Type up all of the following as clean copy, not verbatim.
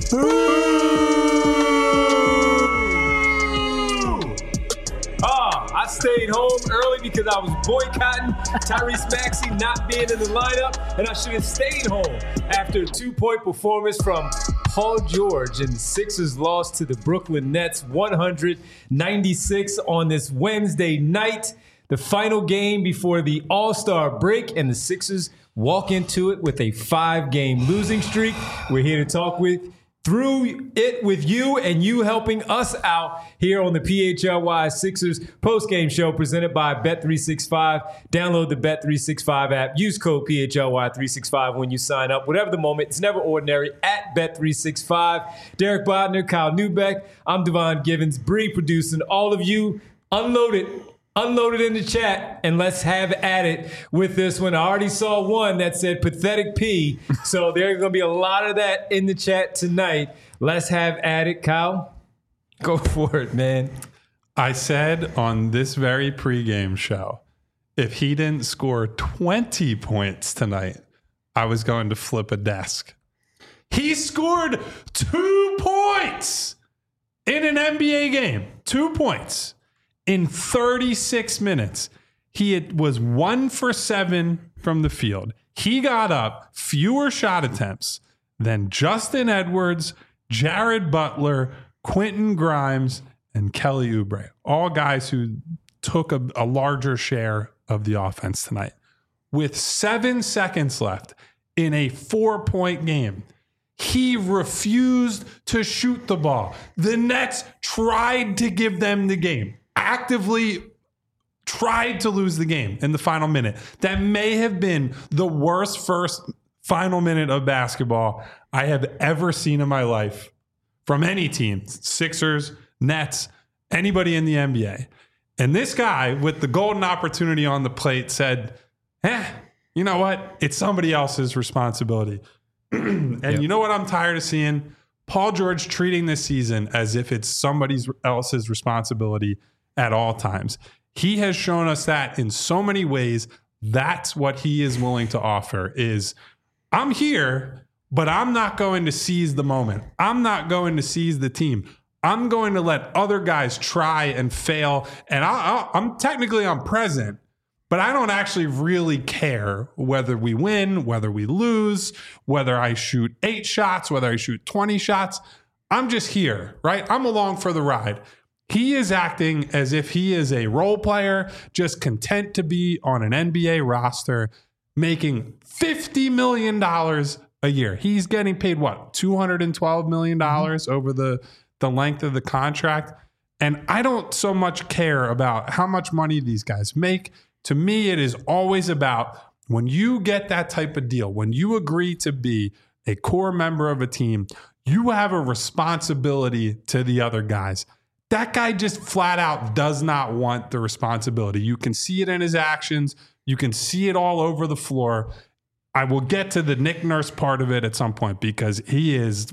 I stayed home early because I was boycotting Tyrese Maxey not being in the lineup, and I should have stayed home after a 2-point performance from Paul George, and the Sixers lost to the Brooklyn Nets 196 on this Wednesday night, the final game before the All-Star break, and the Sixers walk into it with a 5-game losing streak. We're here to talk through it with you and you helping us out here on the PHLY Sixers postgame show presented by Bet365. Download the Bet365 app. Use code PHLY365 when you sign up. Whatever the moment, it's never ordinary at Bet365. Derek Bodner, Kyle Newbeck. I'm Devon Givens. Bree producing. All of you, unload it in the chat, and let's have at it with this one. I already saw one that said pathetic P, so there's going to be a lot of that in the chat tonight. Let's have at it. Kyle, go for it, man. I said on this very pregame show, if he didn't score 20 points tonight, I was going to flip a desk. He scored 2 points in an NBA game. 2 points. In 36 minutes, he was 1 for 7 from the field. He got up fewer shot attempts than Justin Edwards, Jared Butler, Quentin Grimes, and Kelly Oubre. All guys who took a larger share of the offense tonight. With 7 seconds left in a 4-point game, he refused to shoot the ball. The Nets tried to give them the game. Actively tried to lose the game in the final minute. That may have been the worst first final minute of basketball I have ever seen in my life from any team. Sixers, Nets, anybody in the NBA. And this guy with the golden opportunity on the plate said, you know what? It's somebody else's responsibility. And You know what I'm tired of seeing? Paul George treating this season as if it's somebody else's responsibility at all times. He has shown us that in so many ways. That's what he is willing to offer is, I'm here, but I'm not going to seize the moment. I'm not going to seize the team. I'm going to let other guys try and fail. And I'm present, but I don't actually really care whether we win, whether we lose, whether I shoot 8 shots, whether I shoot 20 shots. I'm just here, right? I'm along for the ride. He is acting as if he is a role player, just content to be on an NBA roster, making $50 million a year. He's getting paid, what, $212 million over the length of the contract? And I don't so much care about how much money these guys make. To me, it is always about when you get that type of deal, when you agree to be a core member of a team, you have a responsibility to the other guys. That guy just flat out does not want the responsibility. You can see it in his actions. You can see it all over the floor. I will get to the Nick Nurse part of it at some point because he is,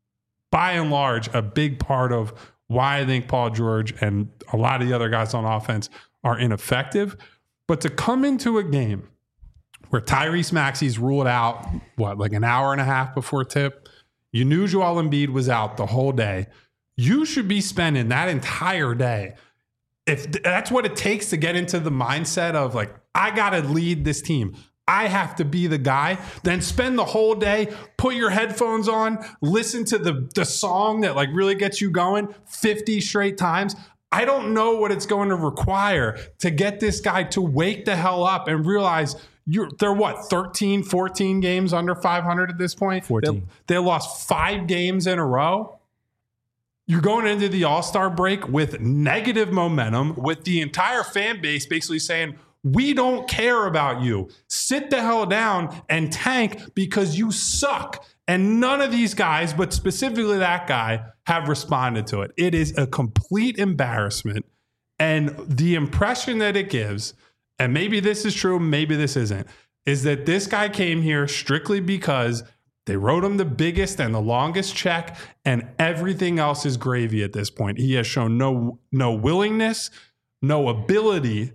by and large, a big part of why I think Paul George and a lot of the other guys on offense are ineffective. But to come into a game where Tyrese Maxey's ruled out, like an hour and a half before tip, you knew Joel Embiid was out the whole day. You should be spending that entire day. If that's what it takes to get into the mindset of like, I got to lead this team. I have to be the guy. Then spend the whole day, put your headphones on, listen to the song that like really gets you going 50 straight times. I don't know what it's going to require to get this guy to wake the hell up and realize they're 13, 14 games under 500 at this point. 14. They lost 5 games in a row. You're going into the All-Star break with negative momentum, with the entire fan base basically saying, we don't care about you. Sit the hell down and tank because you suck. And none of these guys, but specifically that guy, have responded to it. It is a complete embarrassment. And the impression that it gives, and maybe this is true, maybe this isn't, is that this guy came here strictly because they wrote him the biggest and the longest check, and everything else is gravy at this point. He has shown no willingness, no ability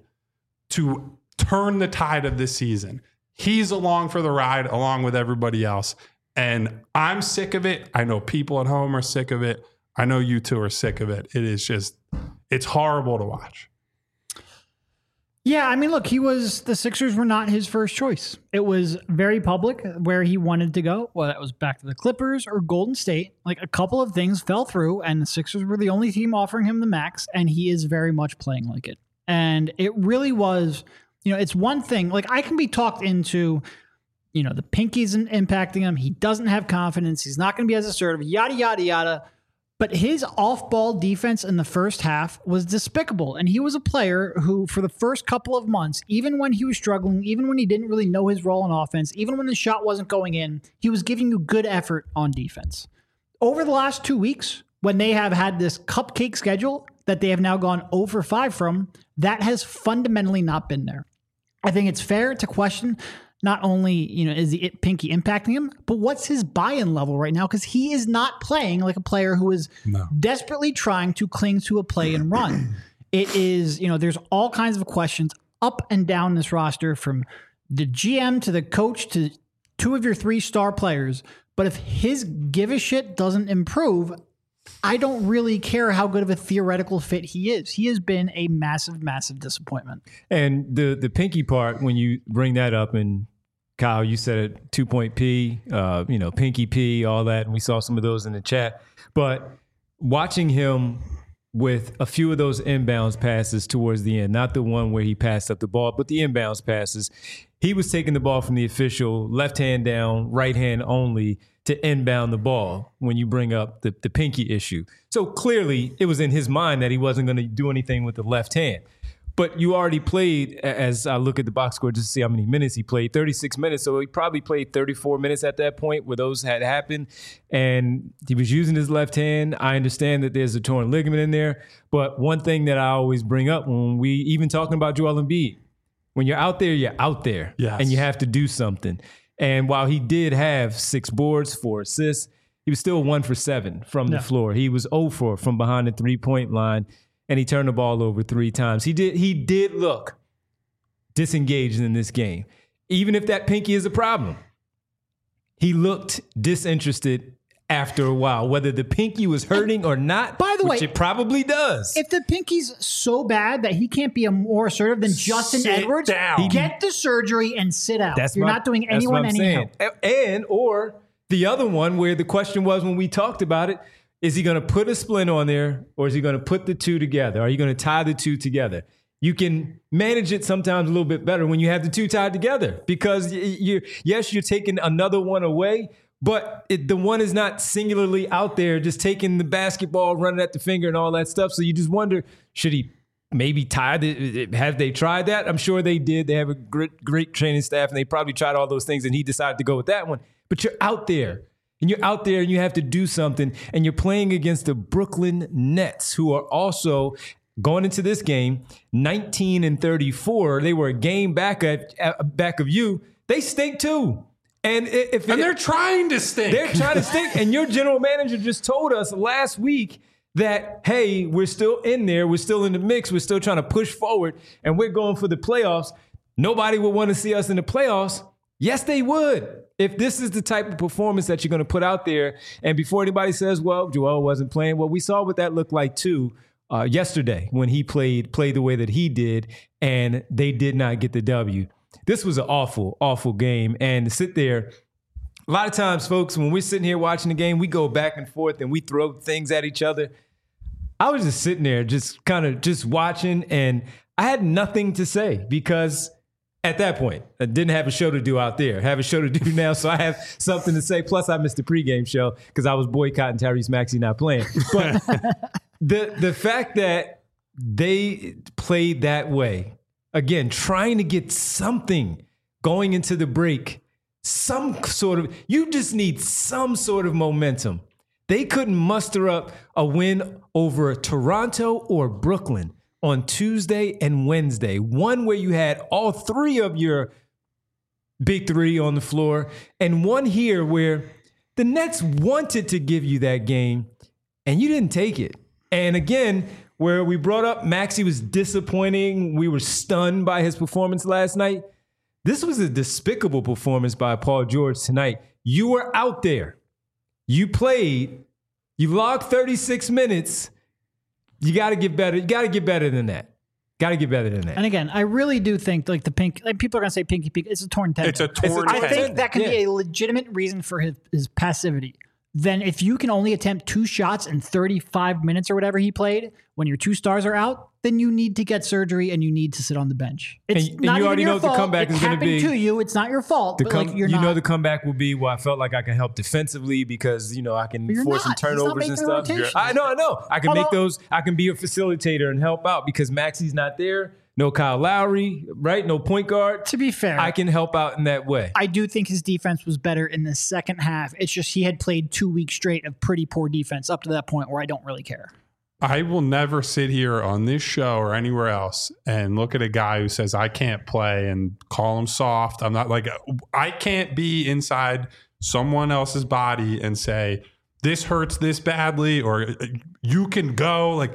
to turn the tide of this season. He's along for the ride along with everybody else. And I'm sick of it. I know people at home are sick of it. I know you two are sick of it. It is just, it's horrible to watch. Yeah, I mean, look, the Sixers were not his first choice. It was very public where he wanted to go. Well, that was back to the Clippers or Golden State. Like, a couple of things fell through, and the Sixers were the only team offering him the max, and he is very much playing like it. And it really was, it's one thing. Like, I can be talked into, the pinky's impacting him. He doesn't have confidence. He's not going to be as assertive, yada, yada, yada. But his off-ball defense in the first half was despicable. And he was a player who, for the first couple of months, even when he was struggling, even when he didn't really know his role in offense, even when the shot wasn't going in, he was giving you good effort on defense. Over the last 2 weeks, when they have had this cupcake schedule that they have now gone 0-5 from, that has fundamentally not been there. I think it's fair to question not only, is the pinky impacting him, but what's his buy-in level right now? Because he is not playing like a player who is desperately trying to cling to a play and run. It is, there's all kinds of questions up and down this roster, from the GM to the coach to 2 of your 3 star players. But if his give a shit doesn't improve, I don't really care how good of a theoretical fit he is. He has been a massive, massive disappointment. And the pinky part, when you bring that up, and Kyle, you said it, 2-point P, pinky P, all that, and we saw some of those in the chat. But watching him with a few of those inbounds passes towards the end, not the one where he passed up the ball, but the inbounds passes, he was taking the ball from the official, left hand down, right hand only, to inbound the ball when you bring up the pinky issue. So clearly it was in his mind that he wasn't going to do anything with the left hand. But you already played, as I look at the box score just to see how many minutes he played, 36 minutes. So he probably played 34 minutes at that point where those had happened. And he was using his left hand. I understand that there's a torn ligament in there. But one thing that I always bring up when we even talking about Joel Embiid, when you're out there, you're out there. Yes. And you have to do something. And while he did have 6 boards, 4 assists, he was still 1 for 7 from the floor. He was 0 for from behind the 3-point line, and he turned the ball over 3 times. He did look disengaged in this game. Even if that pinky is a problem, he looked disinterested after a while, whether the pinky was hurting or not. By the way, it probably does. If the pinky's so bad that he can't be a more assertive than Justin Edwards, get the surgery and sit out. You're not doing anyone any help. And or the other one where the question was when we talked about it, is he going to put a splint on there, or is he going to put the 2 together? Are you going to tie the 2 together? You can manage it sometimes a little bit better when you have the 2 tied together, because you're taking another one away, but the one is not singularly out there just taking the basketball, running at the finger and all that stuff. So you just wonder, should he maybe tie it? Have they tried that? I'm sure they did. They have a great training staff, and they probably tried all those things, and he decided to go with that one. But you're out there. And you're out there and you have to do something, and you're playing against the Brooklyn Nets, who are also going into this game 19-34. They were a game back of you. They stink too. And they're trying to stink. They're trying to stink. And your general manager just told us last week that, hey, we're still in there. We're still in the mix. We're still trying to push forward, and we're going for the playoffs. Nobody would want to see us in the playoffs. Yes, they would. If this is the type of performance that you're going to put out there, and before anybody says, well, Joel wasn't playing, well, we saw what that looked like too yesterday when he played the way that he did, and they did not get the W. This was an awful, awful game. And to sit there, a lot of times, folks, when we're sitting here watching the game, we go back and forth and we throw things at each other. I was just sitting there just watching, and I had nothing to say because at that point, I didn't have a show to do out there. I have a show to do now, so I have something to say. Plus, I missed the pregame show because I was boycotting Tyrese Maxey not playing. But the fact that they played that way, again, trying to get something going into the break, you just need some sort of momentum. They couldn't muster up a win over Toronto or Brooklyn on Tuesday and Wednesday, one where you had all 3 of your big 3 on the floor, and one here where the Nets wanted to give you that game, and you didn't take it. And again, where we brought up Maxey was disappointing, we were stunned by his performance last night. This was a despicable performance by Paul George tonight. You were out there. You played. You logged 36 minutes. You got to get better. You got to get better than that. Got to get better than that. And again, I really do think like people are going to say pinky peak. It's a torn tendon. It's a torn I tendon. think that can be a legitimate reason for his passivity. Then if you can only attempt 2 shots in 35 minutes or whatever he played, when your 2 stars are out, then you need to get surgery and you need to sit on the bench. It's And not you even already your know what the fault. comeback It is gonna be. happened to you. It's not your fault. But like you're you not. know the comeback will be, well, I felt like I can help defensively because, I can you're force some not. He's not turnovers and making stuff. rotations. I know. I can Although- make those. I can be a facilitator and help out because Maxi's not there. No Kyle Lowry, right? No point guard. To be fair, I can help out in that way. I do think his defense was better in the second half. It's just he had played 2 weeks straight of pretty poor defense up to that point where I don't really care. I will never sit here on this show or anywhere else and look at a guy who says I can't play and call him soft. I'm not like, I can't be inside someone else's body and say this hurts this badly or you can go. Like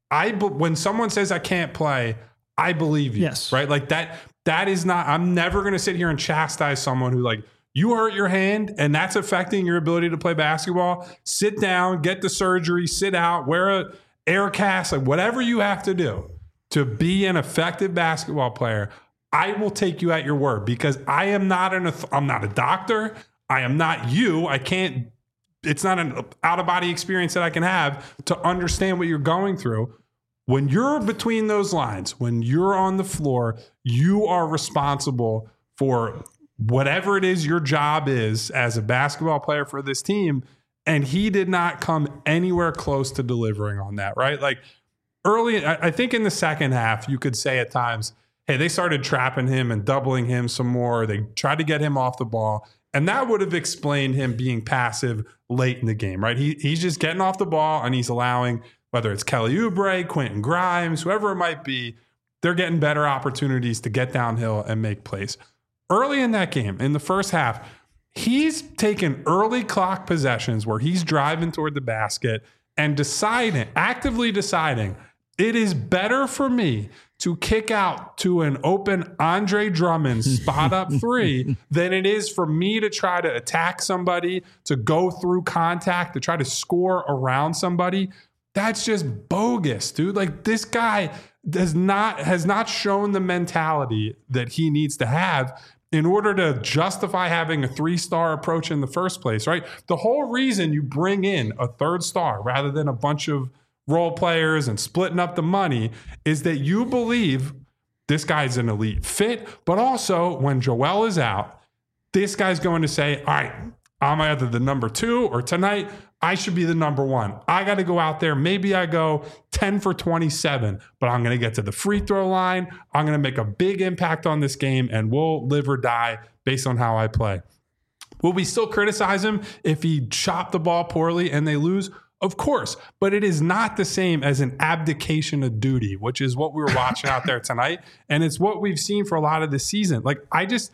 when someone says I can't play, I believe you. Yes. Right. Like that is not, I'm never going to sit here and chastise someone who like, you hurt your hand and that's affecting your ability to play basketball. Sit down, get the surgery, sit out, wear a air cast, like whatever you have to do to be an effective basketball player. I will take you at your word because I am not I'm not a doctor. I am not you. I can't, it's not an out of body experience that I can have to understand what you're going through. When you're between those lines, when you're on the floor, you are responsible for whatever it is your job is as a basketball player for this team. And he did not come anywhere close to delivering on that, right? Like early, I think in the second half, you could say at times, hey, they started trapping him and doubling him some more. They tried to get him off the ball. And that would have explained him being passive late in the game, right? He's just getting off the ball and he's allowing, whether it's Kelly Oubre, Quentin Grimes, whoever it might be, they're getting better opportunities to get downhill and make plays. Early in that game, in the first half, he's taken early clock possessions where he's driving toward the basket and actively deciding, it is better for me to kick out to an open Andre Drummond spot up 3 than it is for me to try to attack somebody, to go through contact, to try to score around somebody. That's just bogus, dude. Like this guy has not shown the mentality that he needs to have in order to justify having a 3-star approach in the first place, right? The whole reason you bring in a 3rd star rather than a bunch of role players and splitting up the money is that you believe this guy's an elite fit, but also when Joel is out, this guy's going to say, all right, I'm either the number 2 or tonight I should be the number 1. I got to go out there. Maybe I go 10 for 27, but I'm going to get to the free throw line. I'm going to make a big impact on this game and we'll live or die based on how I play. Will we still criticize him if he chopped the ball poorly and they lose? Of course, but it is not the same as an abdication of duty, which is what we were watching out there tonight. And it's what we've seen for a lot of the season. Like,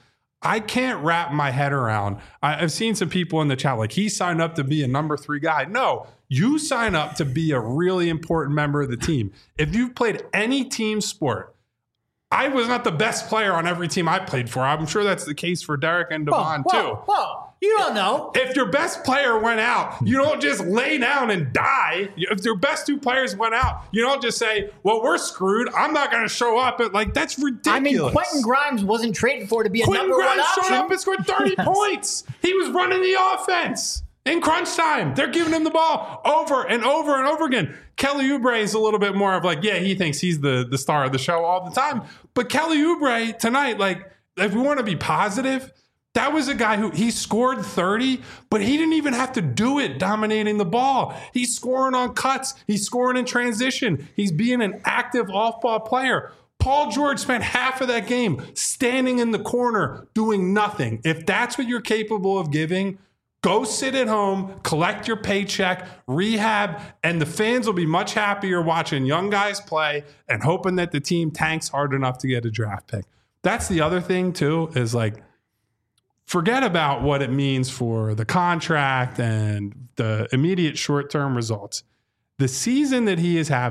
I can't wrap my head around. I've seen some people in the chat, like, he signed up to be a number 3 guy. No, you sign up to be a really important member of the team. If you've played any team sport, I was not the best player on every team I played for. I'm sure that's the case for Derek and Devon too. Whoa. You don't know. If your best player went out, you don't just lay down and die. If your best 2 players went out, you don't just say, well, we're screwed. I'm not going to show up. Like, that's ridiculous. I mean, Quentin Grimes wasn't traded for to be a Quentin number 1 Grimes option. showed up and scored 30 points. He was running the offense. In crunch time, they're giving him the ball over and over and over again. Kelly Oubre is a little bit more of like, yeah, he thinks he's the star of the show all the time. But Kelly Oubre tonight, like, if we want to be positive, that was a guy who he scored 30, but he didn't even have to do it dominating the ball. He's scoring on cuts. He's scoring in transition. He's being an active off-ball player. Paul George spent half of that game standing in the corner doing nothing. If that's what you're capable of giving, go sit at home, collect your paycheck, rehab, and the fans will be much happier watching young guys play and hoping that the team tanks hard enough to get a draft pick. That's the other thing, too, is like, forget about what it means for the contract and the immediate short-term results. The season that he is having,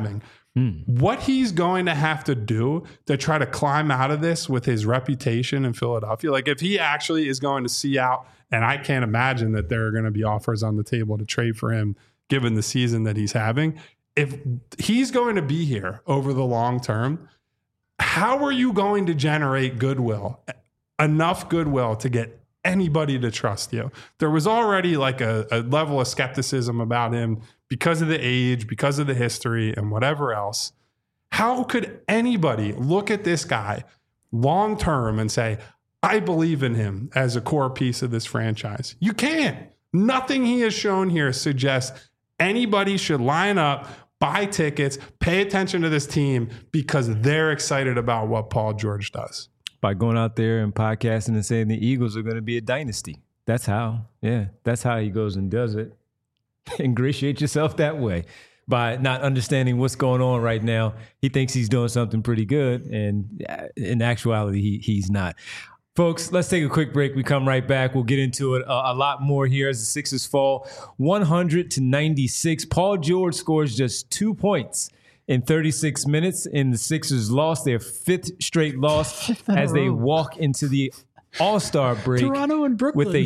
What he's going to have to do to try to climb out of this with his reputation in Philadelphia, like if he actually is going to see out, and I can't imagine that there are going to be offers on the table to trade for him given the season that he's having. If he's going to be here over the long term, how are you going to generate goodwill, enough goodwill to get anybody to trust you? There was already like a level of skepticism about him because of the age, because of the history, and whatever else. How could anybody look at this guy long term and say, I believe in him as a core piece of this franchise? You can't. Nothing he has shown here suggests anybody should line up, buy tickets, pay attention to this team because they're excited about what Paul George does. By going out there and podcasting and saying the Eagles are going to be a dynasty. That's how. Yeah, that's how he goes and does it. Ingratiate yourself that way by not understanding what's going on right now. He thinks he's doing something pretty good, and in actuality, he's not. Folks, let's take a quick break. We come right back. We'll get into it a lot more here as the Sixers fall 100-96. Paul George scores just 2 points in 36 minutes, and the Sixers lost their fifth straight loss as they walk into the All-Star break Toronto and Brooklyn with a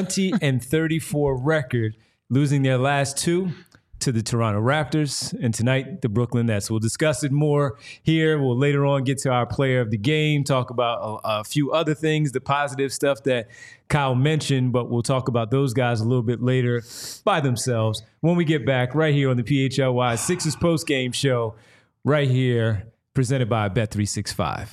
20-34 record, losing their last two to the Toronto Raptors and tonight the Brooklyn Nets. We'll discuss it more here. We'll later on get to our player of the game, talk about a few other things, the positive stuff that Kyle mentioned, but we'll talk about those guys a little bit later by themselves when we get back right here on the PHLY Sixers postgame show right here, presented by Bet365.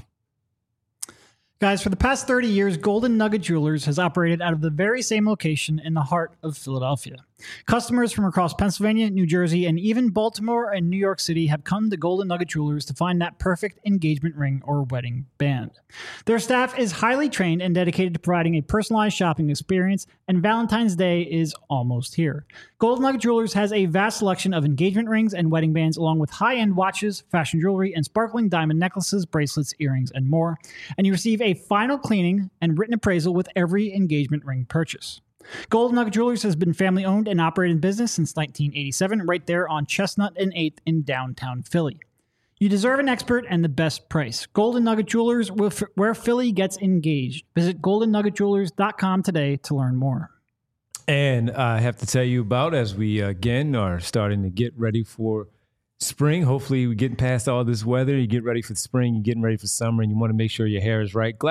Guys, for the past 30 years, Golden Nugget Jewelers has operated out of the very same location in the heart of Philadelphia. Customers from across Pennsylvania, New Jersey, and even Baltimore and New York City have come to Golden Nugget Jewelers to find that perfect engagement ring or wedding band. Their staff is highly trained and dedicated to providing a personalized shopping experience, and Valentine's Day is almost here. Golden Nugget Jewelers has a vast selection of engagement rings and wedding bands, along with high-end watches, fashion jewelry, and sparkling diamond necklaces, bracelets, earrings, and more. And you receive a final cleaning and written appraisal with every engagement ring purchase. Golden Nugget Jewelers has been family-owned and operated in business since 1987, right there on Chestnut and 8th in downtown Philly. You deserve an expert and the best price. Golden Nugget Jewelers, where Philly gets engaged. Visit goldennuggetjewelers.com today to learn more. And I have to tell you about, as we again are starting to get ready for spring. Hopefully we're getting past all this weather. You get ready for spring, you're getting ready for summer, and you want to make sure your hair is right.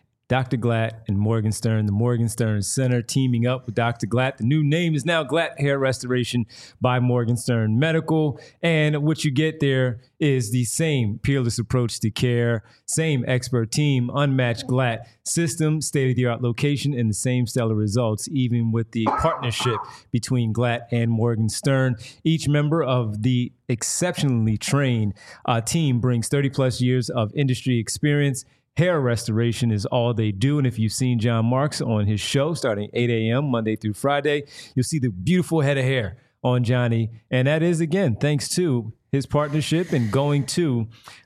Dr. Glatt and Morgenstern, the Morgenstern Center, teaming up with Dr. Glatt. The new name is now Glatt Hair Restoration by Morgenstern Medical. And what you get there is the same peerless approach to care, same expert team, unmatched Glatt system, state-of-the-art location, and the same stellar results, even with the partnership between Glatt and Morgenstern. Each member of the exceptionally trained team brings 30-plus years of industry experience. Hair restoration is all they do. And if you've seen John Marks on his show starting 8 a.m. Monday through Friday, you'll see the beautiful head of hair on Johnny. And that is, again, thanks to his partnership and going to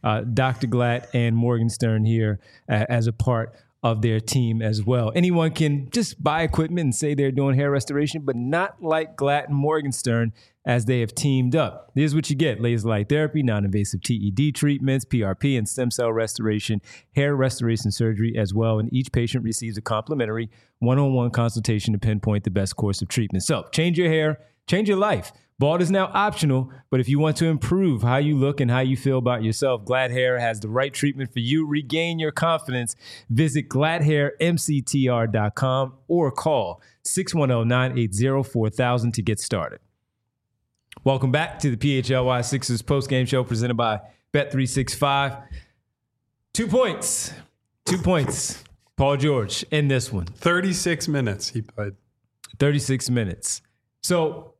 Dr. Glatt and Morgenstern here as a part of their team as well. Anyone can just buy equipment and say they're doing hair restoration, but not like Glatt and Morgenstern, as they have teamed up. Here's what you get: laser light therapy, non-invasive TED treatments, PRP, and stem cell restoration, hair restoration surgery as well. And each patient receives a complimentary one-on-one consultation to pinpoint the best course of treatment. So change your hair, change your life. Bald is now optional, but if you want to improve how you look and how you feel about yourself, Glatt Hair has the right treatment for you. Regain your confidence. Visit GlattHairMCTR.com or call 610-980-4000 to get started. Welcome back to the PHLY Sixers postgame show presented by Bet365. 2 points. 2 points. Paul George in this one. 36 minutes he played. 36 minutes. So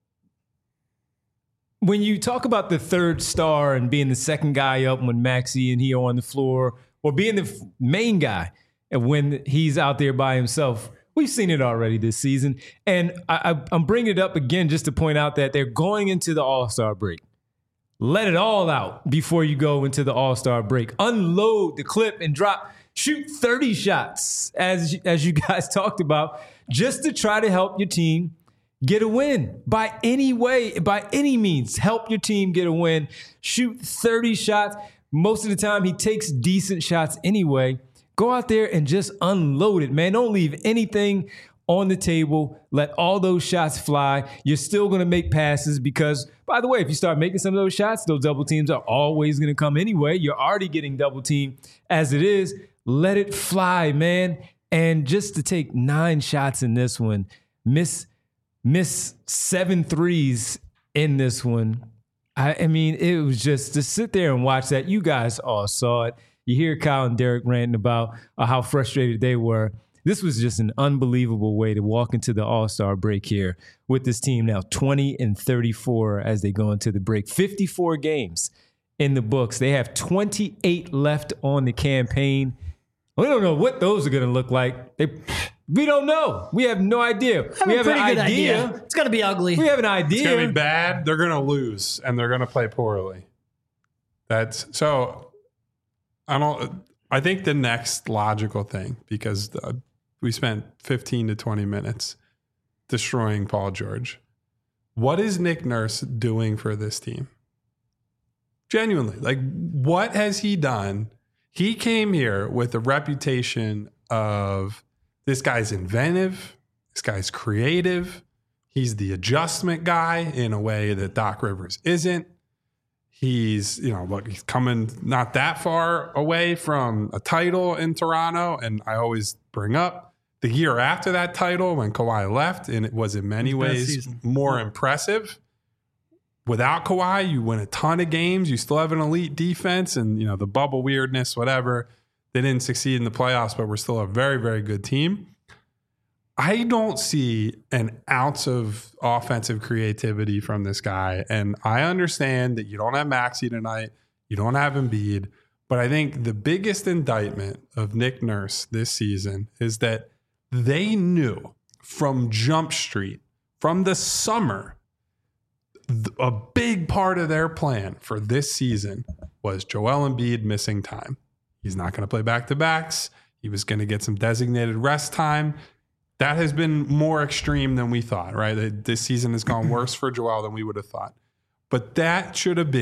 when you talk about the third star and being the second guy up when Maxey and he are on the floor, or being the main guy and when he's out there by himself, we've seen it already this season. And I'm bringing it up again just to point out that they're going into the All-Star break. Let it all out before you go into the All-Star break. Unload the clip and shoot 30 shots, as you guys talked about, just to try to help your team get a win by any way, by any means. Help your team get a win. Shoot 30 shots. Most of the time, he takes decent shots anyway. Go out there and just unload it, man. Don't leave anything on the table. Let all those shots fly. You're still going to make passes because, by the way, if you start making some of those shots, those double teams are always going to come anyway. You're already getting double teamed as it is. Let it fly, man. And just to take 9 shots in this one, miss 7 threes in this one. I mean, it was just to sit there and watch that. You guys all saw it. You hear Kyle and Derek ranting about how frustrated they were. This was just an unbelievable way to walk into the All-Star break here with this team now 20-34 as they go into the break. 54 games in the books. They have 28 left on the campaign. We don't know what those are going to look like. We don't know. We have no idea. We have an idea. It's going to be ugly. We have an idea. It's going to be bad. They're going to lose, and they're going to play poorly. That's so. I think the next logical thing, because we spent 15 to 20 minutes destroying Paul George. What is Nick Nurse doing for this team? Genuinely, like, what has he done? He came here with a reputation of this guy's inventive, this guy's creative. He's the adjustment guy in a way that Doc Rivers isn't. He's, he's coming not that far away from a title in Toronto. And I always bring up the year after that title when Kawhi left, and it was in many ways more impressive. Without Kawhi, you win a ton of games. You still have an elite defense and, the bubble weirdness, whatever. They didn't succeed in the playoffs, but we're still a very, very good team. I don't see an ounce of offensive creativity from this guy. And I understand that you don't have Maxey tonight. You don't have Embiid. But I think the biggest indictment of Nick Nurse this season is that they knew from Jump Street, from the summer, a big part of their plan for this season was Joel Embiid missing time. He's not going to play back-to-backs. He was going to get some designated rest time. That has been more extreme than we thought, right? This season has gone worse for Joel than we would have thought. But that should have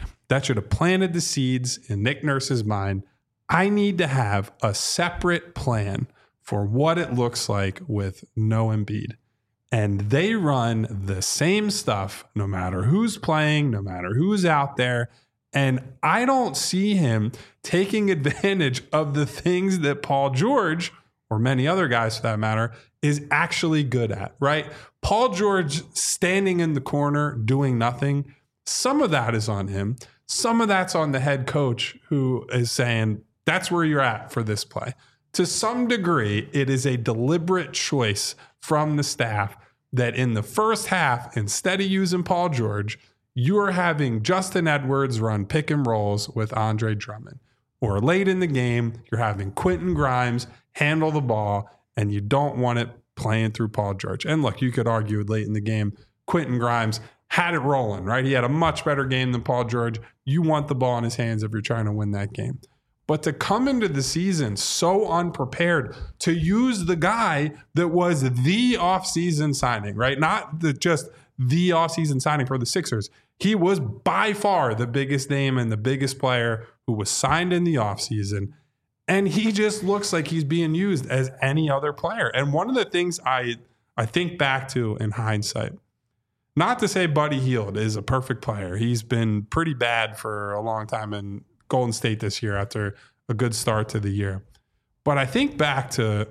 planted the seeds in Nick Nurse's mind. I need to have a separate plan for what it looks like with no Embiid. And they run the same stuff no matter who's playing, no matter who's out there. And I don't see him taking advantage of the things that Paul George, or many other guys for that matter, is actually good at, right? Paul George standing in the corner doing nothing, some of that is on him. Some of that's on the head coach who is saying, that's where you're at for this play. To some degree, it is a deliberate choice from the staff that in the first half, instead of using Paul George, you're having Justin Edwards run pick and rolls with Andre Drummond. Or late in the game, you're having Quentin Grimes handle the ball, and you don't want it playing through Paul George. And look, you could argue late in the game, Quentin Grimes had it rolling, right? He had a much better game than Paul George. You want the ball in his hands if you're trying to win that game. But to come into the season so unprepared, to use the guy that was the offseason signing, right? Not just the offseason signing for the Sixers. He was by far the biggest name and the biggest player who was signed in the offseason. And he just looks like he's being used as any other player. And one of the things I think back to in hindsight, not to say Buddy Hield is a perfect player. He's been pretty bad for a long time in Golden State this year after a good start to the year. But I think back to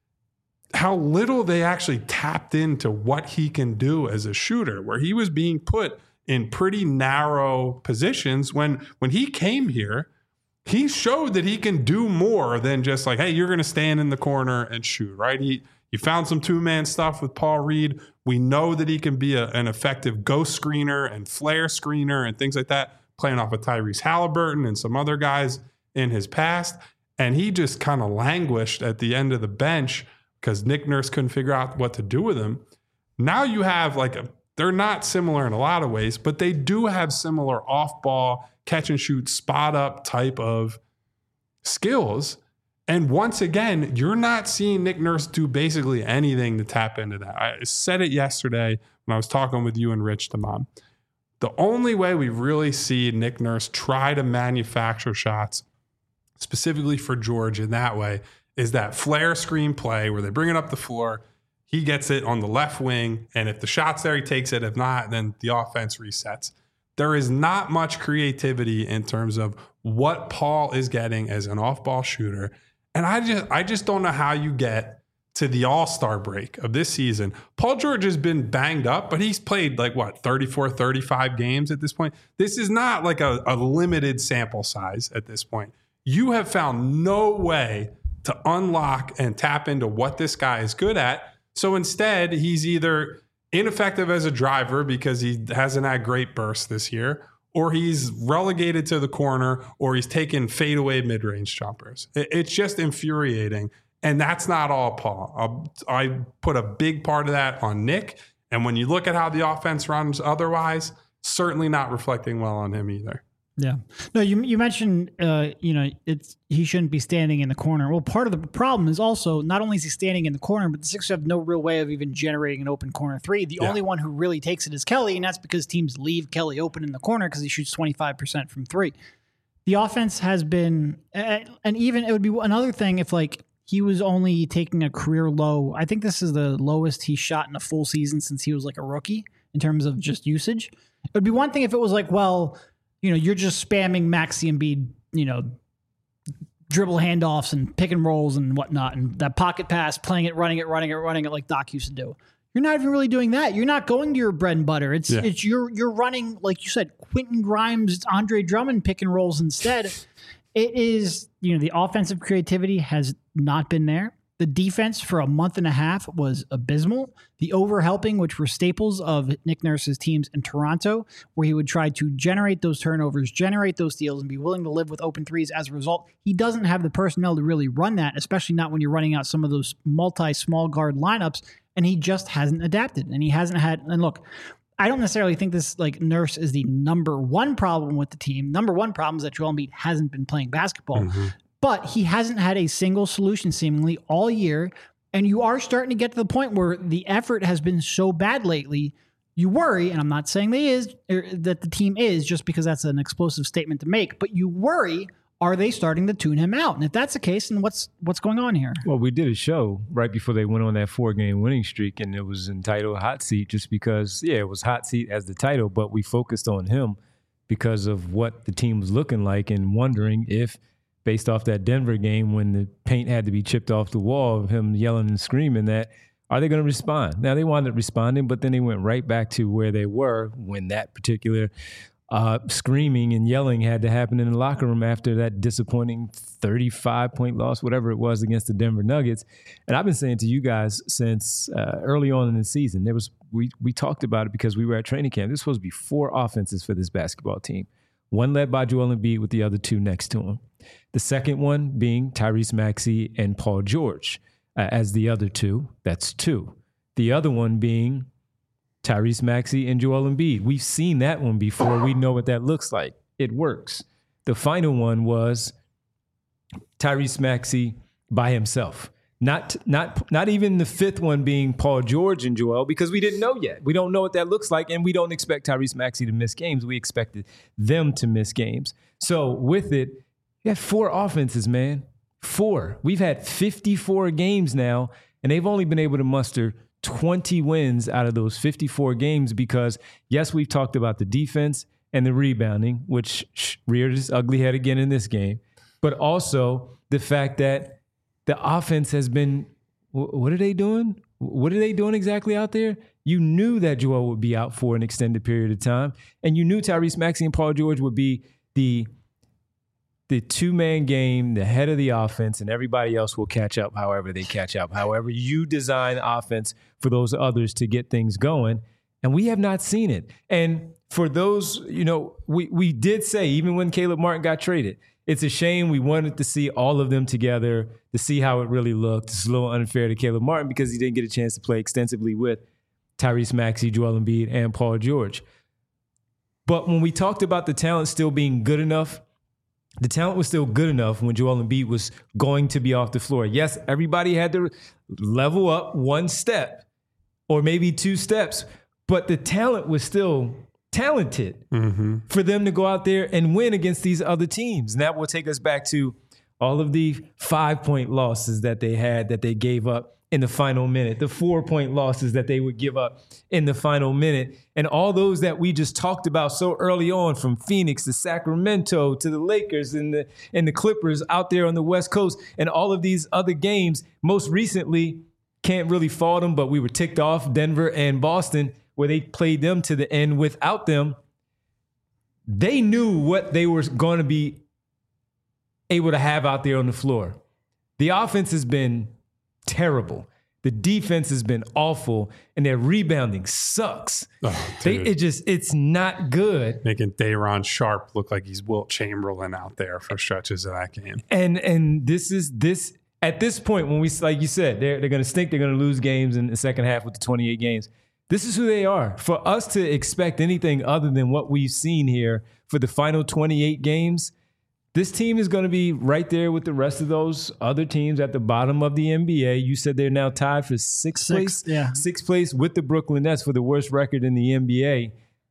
how little they actually tapped into what he can do as a shooter, where he was being put in pretty narrow positions. When he came here, he showed that he can do more than just like, hey, you're going to stand in the corner and shoot, right? He found some two-man stuff with Paul Reed. We know that he can be an effective ghost screener and flare screener and things like that, playing off of Tyrese Halliburton and some other guys in his past. And he just kind of languished at the end of the bench because Nick Nurse couldn't figure out what to do with him. Now you have they're not similar in a lot of ways, but they do have similar off-ball, catch and shoot, spot up type of skills. And once again, you're not seeing Nick Nurse do basically anything to tap into that. I said it yesterday when I was talking with you and Rich Damon. The only way we really see Nick Nurse try to manufacture shots, specifically for George in that way, is that flare screen play where they bring it up the floor. He gets it on the left wing, and if the shot's there, he takes it. If not, then the offense resets. There is not much creativity in terms of what Paul is getting as an off-ball shooter. And I just don't know how you get to the All-Star break of this season. Paul George has been banged up, but he's played 34, 35 games at this point. This is not like a limited sample size at this point. You have found no way to unlock and tap into what this guy is good at. So instead, he's either ineffective as a driver because he hasn't had great bursts this year, or he's relegated to the corner, or he's taking fadeaway mid-range jumpers. It's just infuriating. And that's not all Paul. I put a big part of that on Nick. And when you look at how the offense runs otherwise, certainly not reflecting well on him either. Yeah. No, you mentioned, he shouldn't be standing in the corner. Well, part of the problem is also not only is he standing in the corner, but the Sixers have no real way of even generating an open corner three. The only one who really takes it is Kelly, and that's because teams leave Kelly open in the corner because he shoots 25% from three. The offense has been, and even it would be another thing if he was only taking a career low. I think this is the lowest he shot in a full season since he was a rookie in terms of just usage. It would be one thing if it was you're just spamming Maxey and Embiid, dribble handoffs and pick and rolls and whatnot, and that pocket pass, playing it, running it like Doc used to do. You're not even really doing that. You're not going to your bread and butter. It's you're running, like you said, Quentin Grimes, Andre Drummond pick and rolls instead. It is, the offensive creativity has not been there. The defense for a month and a half was abysmal. The overhelping, which were staples of Nick Nurse's teams in Toronto, where he would try to generate those turnovers, generate those steals, and be willing to live with open threes as a result. He doesn't have the personnel to really run that, especially not when you're running out some of those multi-small guard lineups, and he just hasn't adapted. And he hasn't had, and look, I don't necessarily think this Nurse is the number one problem with the team. Number one problem is that Joel Embiid hasn't been playing basketball. Mm-hmm. But he hasn't had a single solution seemingly all year. And you are starting to get to the point where the effort has been so bad lately, you worry, and I'm not saying that the team is just because that's an explosive statement to make, but you worry, are they starting to tune him out? And if that's the case, then what's going on here? Well, we did a show right before they went on that 4-game winning streak, and it was entitled Hot Seat just because, it was Hot Seat as the title, but we focused on him because of what the team was looking like and wondering if, based off that Denver game when the paint had to be chipped off the wall of him yelling and screaming, that are they going to respond? Now, they wound up responding, but then they went right back to where they were when that particular screaming and yelling had to happen in the locker room after that disappointing 35-point loss, whatever it was, against the Denver Nuggets. And I've been saying to you guys since early on in the season, we talked about it because we were at training camp. This was supposed to be 4 offenses for this basketball team. One led by Joel Embiid with the other 2 next to him. The second one being Tyrese Maxey and Paul George as the other 2. That's 2. The other one being Tyrese Maxey and Joel Embiid. We've seen that one before. We know what that looks like. It works. The final one was Tyrese Maxey by himself. Not even the 5th one being Paul George and Joel, because we didn't know yet. We don't know what that looks like, and we don't expect Tyrese Maxey to miss games. We expected them to miss games. So with it, you have 4 offenses, man. 4. We've had 54 games now, and they've only been able to muster 20 wins out of those 54 games because, yes, we've talked about the defense and the rebounding, which reared its ugly head again in this game, but also the fact that the offense has been, what are they doing? What are they doing exactly out there? You knew that Joel would be out for an extended period of time, and you knew Tyrese Maxey and Paul George would be the 2-man game, the head of the offense, and everybody else will catch up however they catch up, however you design offense for those others to get things going. And we have not seen it. And for those, we did say, even when Caleb Martin got traded, it's a shame. We wanted to see all of them together to see how it really looked. It's a little unfair to Caleb Martin because he didn't get a chance to play extensively with Tyrese Maxey, Joel Embiid, and Paul George. But when we talked about the talent still being good enough the talent was still good enough when Joel Embiid was going to be off the floor. Yes, everybody had to level up one step or maybe two steps, but the talent was still talented for them to go out there and win against these other teams. And that will take us back to all of the 5-point losses that they had that they gave up in the final minute, the 4-point losses that they would give up in the final minute, and all those that we just talked about so early on, from Phoenix to Sacramento to the Lakers and the Clippers out there on the West Coast, and all of these other games. Most recently, can't really fault them, but we were ticked off, Denver and Boston, where they played them to the end without them. They knew what they were going to be able to have out there on the floor. The offense has been terrible. The defense has been awful, and their rebounding sucks. It's not good. Making Day'Ron Sharp look like he's Wilt Chamberlain out there for stretches of that game. And this at this point, when we, like you said, they're going to stink. They're going to lose games in the second half with the 28 games. This is who they are. For us to expect anything other than what we've seen here for the final 28 games, this team is going to be right there with the rest of those other teams at the bottom of the NBA. You said they're now tied for sixth place? Yeah. Sixth place with the Brooklyn Nets for the worst record in the NBA.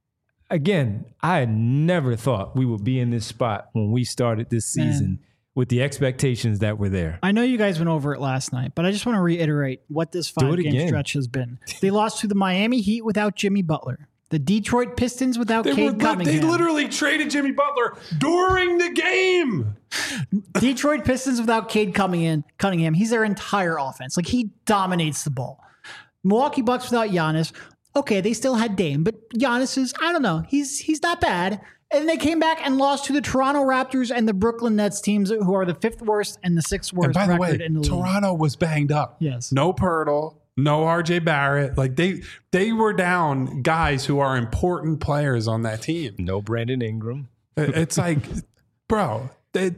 Again, I had never thought we would be in this spot when we started this season with the expectations that were there. I know you guys went over it last night, but I just want to reiterate what this 5-game stretch has been. They lost to the Miami Heat without Jimmy Butler. The Detroit Pistons without Cade Cunningham. They literally traded Jimmy Butler during the game. Detroit Pistons without Cade Cunningham. He's their entire offense. Like, he dominates the ball. Milwaukee Bucks without Giannis. Okay, they still had Dame, but Giannis is, I don't know, he's not bad. And they came back and lost to the Toronto Raptors and the Brooklyn Nets, teams who are the 5th worst and the 6th worst and by the record way, in the league. Toronto was banged up. Yes. No Pirtle. No RJ Barrett. Like they were down guys who are important players on that team. No Brandon Ingram. It's like, bro, it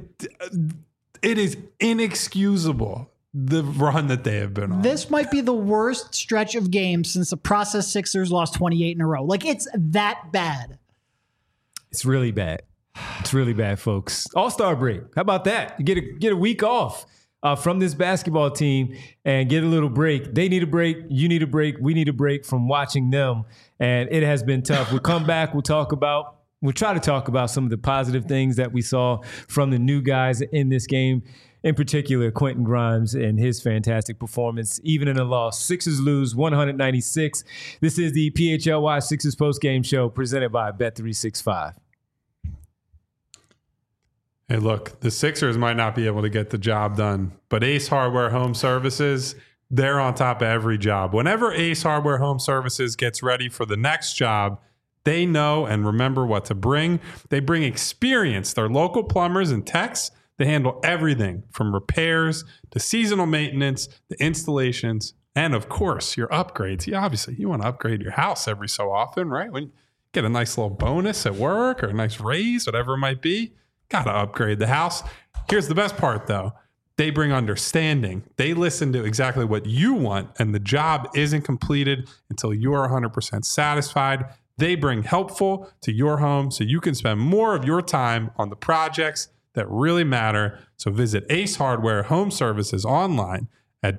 is inexcusable, the run that they have been on. This might be the worst stretch of games since the process Sixers lost 28 in a row. Like, it's that bad. It's really bad. It's really bad, folks. All-Star break. How about that? You get a week off from this basketball team and get a little break. They need a break. You need a break. We need a break from watching them. And it has been tough. We'll come back. We'll try to talk about some of the positive things that we saw from the new guys in this game. In particular, Quentin Grimes and his fantastic performance, even in a loss. Sixers lose 196. This is the PHLY Sixers postgame show presented by Bet365. Hey, look, the Sixers might not be able to get the job done, but Ace Hardware Home Services, they're on top of every job. Whenever Ace Hardware Home Services gets ready for the next job, they know and remember what to bring. They bring experience. They're local plumbers and techs. They handle everything from repairs to seasonal maintenance, to installations, and of course, your upgrades. Yeah, obviously, you want to upgrade your house every so often, right? When you get a nice little bonus at work or a nice raise, whatever it might be. Got to upgrade the house. Here's the best part, though. They bring understanding. They listen to exactly what you want, and the job isn't completed until you are 100% satisfied. They bring helpful to your home so you can spend more of your time on the projects that really matter. So visit Ace Hardware Home Services online at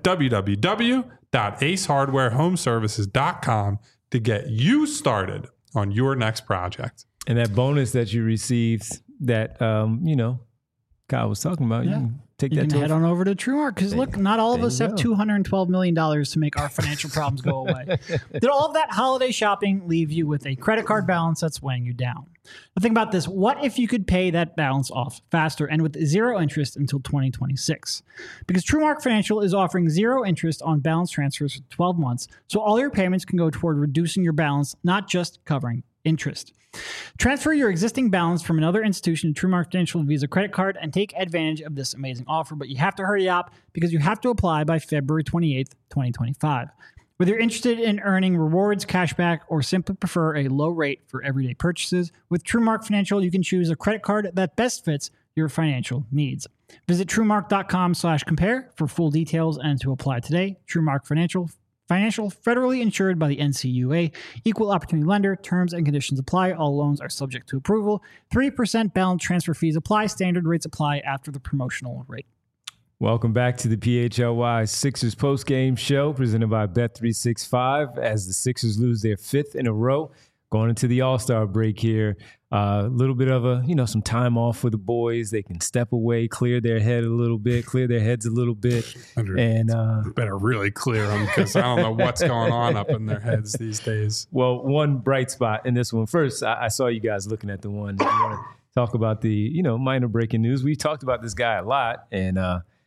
www.acehardwarehomeservices.com to get you started on your next project. And that bonus that you received that, Kyle was talking about, you can take you that can head on over to TrueMark, because look, not all of us have $212 million to make our financial problems go away. Did all of that holiday shopping leave you with a credit card balance that's weighing you down? Now think about this. What if you could pay that balance off faster and with zero interest until 2026? Because TrueMark Financial is offering zero interest on balance transfers for 12 months, so all your payments can go toward reducing your balance, not just covering interest. Transfer your existing balance from another institution to TrueMark Financial Visa credit card and take advantage of this amazing offer, but you have to hurry up because you have to apply by February 28th, 2025. Whether you're interested in earning rewards, cashback, or simply prefer a low rate for everyday purchases, with TrueMark Financial, you can choose a credit card that best fits your financial needs. Visit TrueMark.com/compare for full details and to apply today. TrueMark Financial, federally insured by the NCUA, equal opportunity lender. Terms and conditions apply. All loans are subject to approval. 3% balance transfer fees apply. Standard rates apply after the promotional rate. Welcome back to the PHLY Sixers postgame show presented by Bet365 as the Sixers lose their 5th in a row. Going into the All-Star break here, a little bit of some time off for the boys. They can step away, clear their heads a little bit, and better really clear them because I don't know what's going on up in their heads these days. Well, one bright spot in this one. First, I saw you guys looking at the one. You want to talk about the minor breaking news? We talked about this guy a lot, and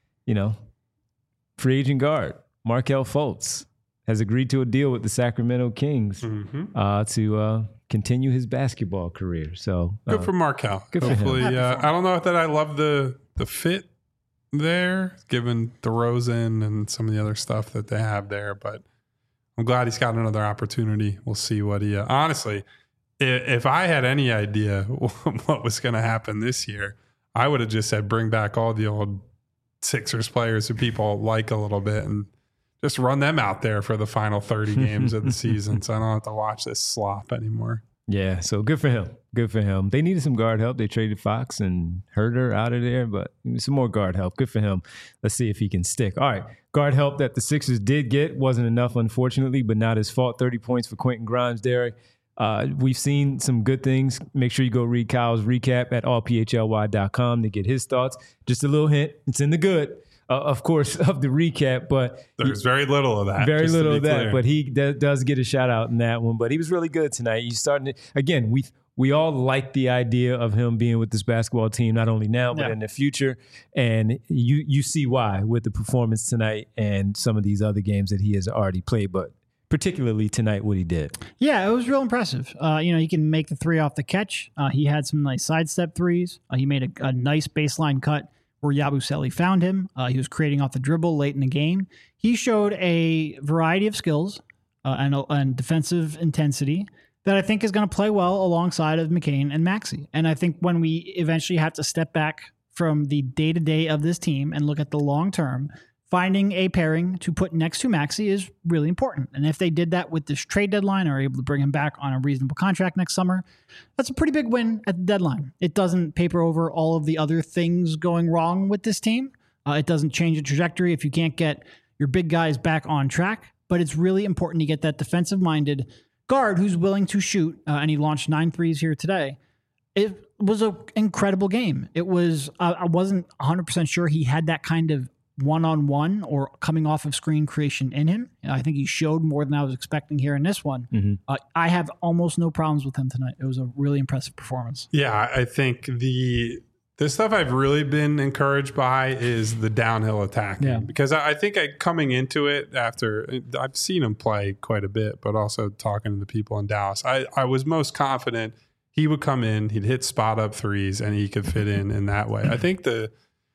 free agent guard Markelle Fultz has agreed to a deal with the Sacramento Kings to continue his basketball career. So good for Markelle. Hopefully, I don't know that I love the fit there, given DeRozan and some of the other stuff that they have there. But I'm glad he's got another opportunity. We'll see what he. Honestly, if I had any idea what was going to happen this year, I would have just said bring back all the old Sixers players who people like a little bit and just run them out there for the final 30 games of the season so I don't have to watch this slop anymore. Yeah, so good for him. Good for him. They needed some guard help. They traded Fox and Herter out of there, but some more guard help. Good for him. Let's see if he can stick. All right, guard help that the Sixers did get wasn't enough, unfortunately, but not his fault. 30 points for Quentin Grimes, Derek. We've seen some good things. Make sure you go read Kyle's recap at allphly.com to get his thoughts. Just a little hint. It's in the good. Of course, of the recap, but there's very little of that. Very little of that, but he does get a shout out in that one. But he was really good tonight. He's starting to, again, we all like the idea of him being with this basketball team, not only now, but in the future. And you see why with the performance tonight and some of these other games that he has already played, but particularly tonight, what he did. Yeah, it was real impressive. He can make the three off the catch. He had some nice sidestep threes. He made a nice baseline cut where Yabusele found him. He was creating off the dribble late in the game. He showed a variety of skills and defensive intensity that I think is going to play well alongside of McCain and Maxey. And I think when we eventually have to step back from the day-to-day of this team and look at the long term, finding a pairing to put next to Maxey is really important. And if they did that with this trade deadline or are able to bring him back on a reasonable contract next summer, that's a pretty big win at the deadline. It doesn't paper over all of the other things going wrong with this team. It doesn't change the trajectory if you can't get your big guys back on track. But it's really important to get that defensive-minded guard who's willing to shoot. And he launched 9 threes here today. It was an incredible game. It was. I wasn't 100% sure he had that kind of one-on-one or coming off of screen creation in him. I think he showed more than I was expecting here in this one. Mm-hmm. I have almost no problems with him tonight. It was a really impressive performance. Yeah, I think the stuff I've really been encouraged by is the downhill attacking. Yeah. Because I think coming into it after I've seen him play quite a bit, but also talking to the people in Dallas, I was most confident he would come in, he'd hit spot up threes, and he could fit in that way. I think the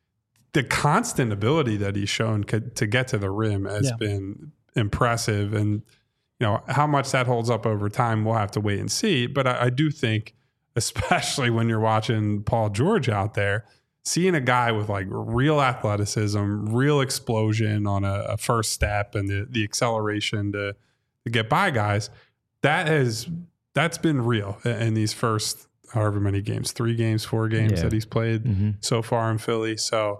constant ability that he's shown to get to the rim has been impressive. And, how much that holds up over time, we'll have to wait and see. But I do think, especially when you're watching Paul George out there, seeing a guy with like real athleticism, real explosion on a first step and the acceleration to get by guys, that's been real in these first however many games, 3 games, 4 games that he's played so far in Philly. So,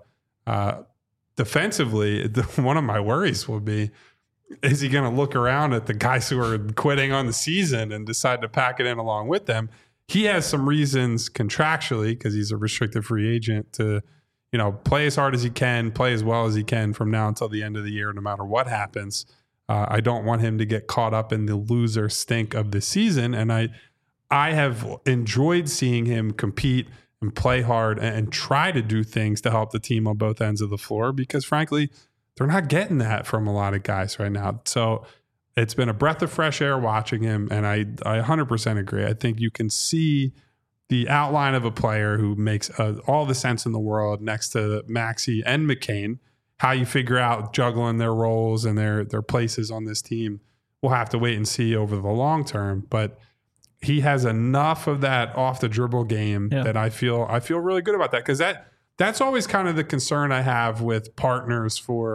defensively, one of my worries will be, is he going to look around at the guys who are quitting on the season and decide to pack it in along with them? He has some reasons contractually, because he's a restricted free agent, to play as hard as he can, play as well as he can from now until the end of the year, no matter what happens. I don't want him to get caught up in the loser stink of the season. And I have enjoyed seeing him compete and play hard and try to do things to help the team on both ends of the floor, because frankly, they're not getting that from a lot of guys right now. So it's been a breath of fresh air watching him. And I 100% agree. I think you can see the outline of a player who makes all the sense in the world next to Maxey and McCain. How you figure out juggling their roles and their places on this team, we'll have to wait and see over the long term. But he has enough of that off the dribble game that I feel really good about that, because that's always kind of the concern I have with partners for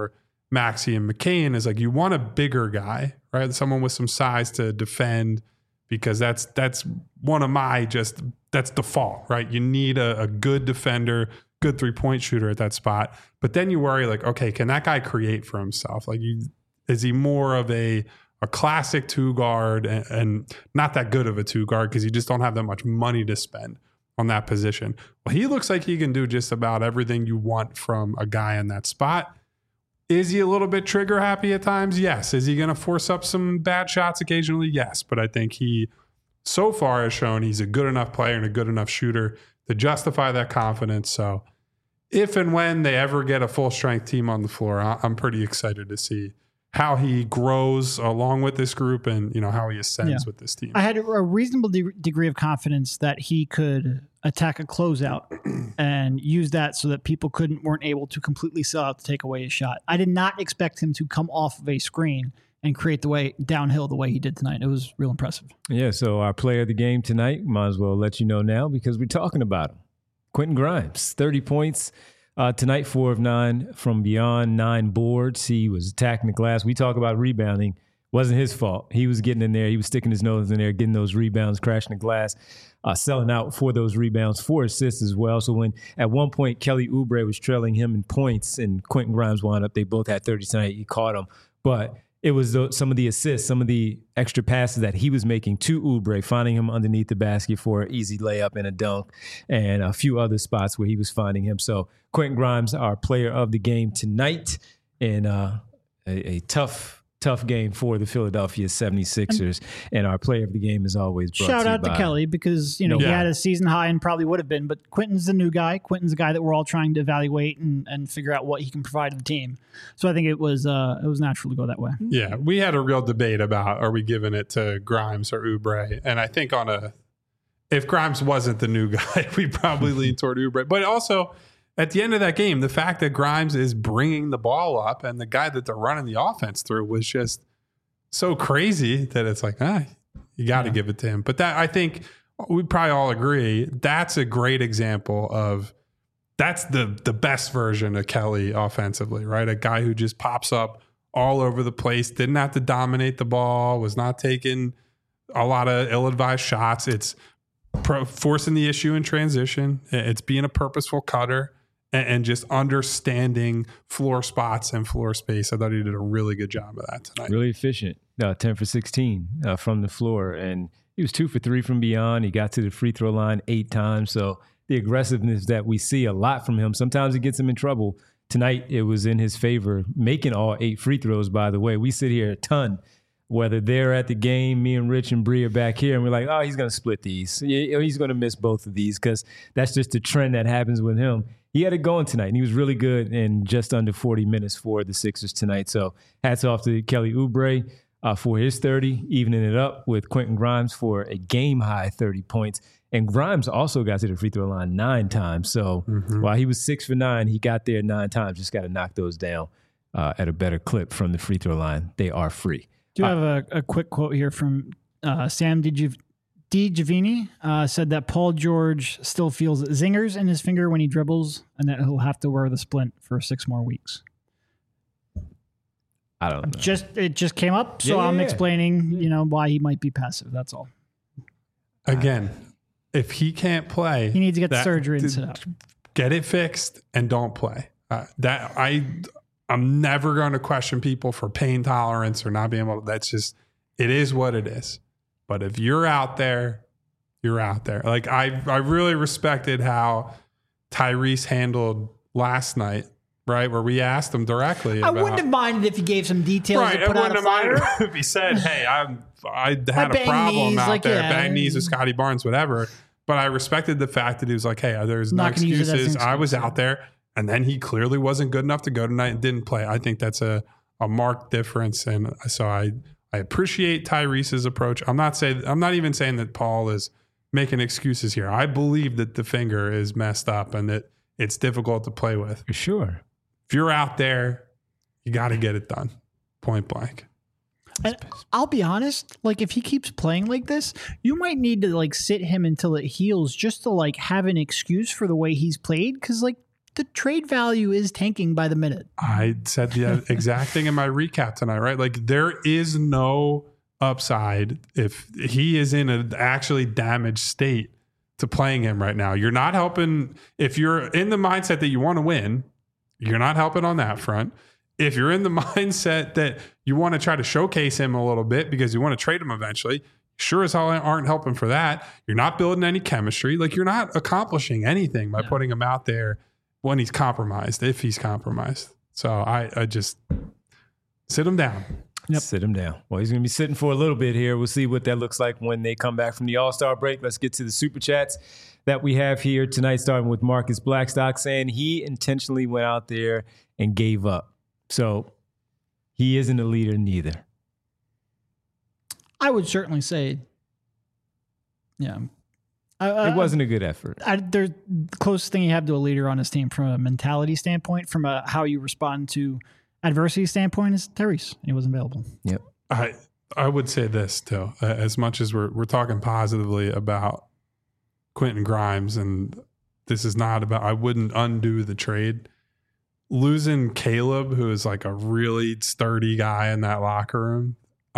Maxey and McCain is like you want a bigger guy, right? Someone with some size to defend, because that's one of my that's default, right? You need a good defender, good 3-point shooter at that spot. But then you worry like, okay, can that guy create for himself? Like, is he more of a classic 2 guard and not that good of a 2 guard because you just don't have that much money to spend on that position? Well, he looks like he can do just about everything you want from a guy in that spot. Is he a little bit trigger happy at times? Yes. Is he going to force up some bad shots occasionally? Yes. But I think he so far has shown he's a good enough player and a good enough shooter to justify that confidence. So if and when they ever get a full strength team on the floor, I'm pretty excited to see how he grows along with this group and, how he ascends with this team. I had a reasonable degree of confidence that he could attack a closeout and use that so that people weren't able to completely sell out to take away his shot. I did not expect him to come off of a screen and create the way downhill the way he did tonight. It was real impressive. Yeah, so our player of the game tonight, might as well let you know now because we're talking about him. Quentin Grimes, 30 points. Tonight, 4 of 9 from beyond, 9 boards. He was attacking the glass. We talk about rebounding. Wasn't his fault. He was getting in there. He was sticking his nose in there, getting those rebounds, crashing the glass, selling out for those rebounds, 4 assists as well. So when at one point Kelly Oubre was trailing him in points and Quentin Grimes wound up, they both had 30 tonight. He caught him. But it was some of the assists, some of the extra passes that he was making to Oubre, finding him underneath the basket for an easy layup and a dunk, and a few other spots where he was finding him. So Quentin Grimes, our player of the game tonight, in a tough game for the Philadelphia 76ers. And our player of the game is always brought shout to you out to by Kelly because, he had a season high and probably would have been, but Quentin's the new guy. Quentin's the guy that we're all trying to evaluate and figure out what he can provide to the team. So I think it was natural to go that way. Yeah, we had a real debate about are we giving it to Grimes or Oubre? And I think if Grimes wasn't the new guy, we probably lean toward Oubre. But also, at the end of that game, the fact that Grimes is bringing the ball up and the guy that they're running the offense through was just so crazy that it's like, you got to give it to him. But that, I think we probably all agree, that's a great example of that's the best version of Kelly offensively, right? A guy who just pops up all over the place, didn't have to dominate the ball, was not taking a lot of ill-advised shots. It's forcing the issue in transition. It's being a purposeful cutter. And just understanding floor spots and floor space. I thought he did a really good job of that tonight. Really efficient, 10 for 16 from the floor. And he was 2 for 3 from beyond. He got to the free throw line 8 times. So the aggressiveness that we see a lot from him, sometimes it gets him in trouble. Tonight, it was in his favor, making all 8 free throws, by the way. We sit here a ton, whether they're at the game, me and Rich and Bree are back here, and we're like, oh, he's going to split these. He's going to miss both of these because that's just the trend that happens with him. He had it going tonight, and he was really good in just under 40 minutes for the Sixers tonight. So hats off to Kelly Oubre for his 30, evening it up with Quentin Grimes for a game-high 30 points. And Grimes also got to the free throw line 9 times. So while he was 6 for 9, he got there 9 times. Just got to knock those down at a better clip from the free throw line. They are free. Do you have a quick quote here from Sam DiGiovanni said that Paul George still feels zingers in his finger when he dribbles and that he'll have to wear the splint for 6 more weeks. I don't know. It just came up, so I'm explaining, why he might be passive. That's all. Again, if he can't play, he needs to get the surgery and sit out. Get it fixed and don't play. I'm never going to question people for pain tolerance or not being able to. That's just, it is what it is. But if you're out there, you're out there. Like I really respected how Tyrese handled last night, right? Where we asked him directly. I wouldn't have minded if he gave some details. Right, I wouldn't have minded if he said, "Hey, I had a problem out there, bang knees with Scotty Barnes, whatever." But I respected the fact that he was like, "Hey, there's no excuses. I was out there." And then he clearly wasn't good enough to go tonight and didn't play. I think that's a marked difference. And so I appreciate Tyrese's approach. I'm not even saying that Paul is making excuses here. I believe that the finger is messed up and that it's difficult to play with. For sure. If you're out there, you got to get it done. Point blank. And I'll be honest, if he keeps playing like this, you might need to sit him until it heals just to have an excuse for the way he's played. Cause the trade value is tanking by the minute. I said the exact thing in my recap tonight, right? Like there is no upside if he is in an actually damaged state to playing him right now. You're not helping. If you're in the mindset that you want to win, you're not helping on that front. If you're in the mindset that you want to try to showcase him a little bit because you want to trade him eventually, sure as hell aren't helping for that. You're not building any chemistry. Like you're not accomplishing anything by putting him out there when he's compromised, if he's compromised. So I just sit him down. Yep. Sit him down. Well, he's going to be sitting for a little bit here. We'll see what that looks like when they come back from the All-Star break. Let's get to the Super Chats that we have here tonight, starting with Marcus Blackstock saying he intentionally went out there and gave up. So he isn't a leader neither. I would certainly say, yeah. It wasn't a good effort. The closest thing you have to a leader on his team from a mentality standpoint, from a how you respond to adversity standpoint, is Tyrese. He wasn't available. Yep. I would say this too, as much as we're talking positively about Quentin Grimes, and this is not about, I wouldn't undo the trade. Losing Caleb, who is like a really sturdy guy in that locker room,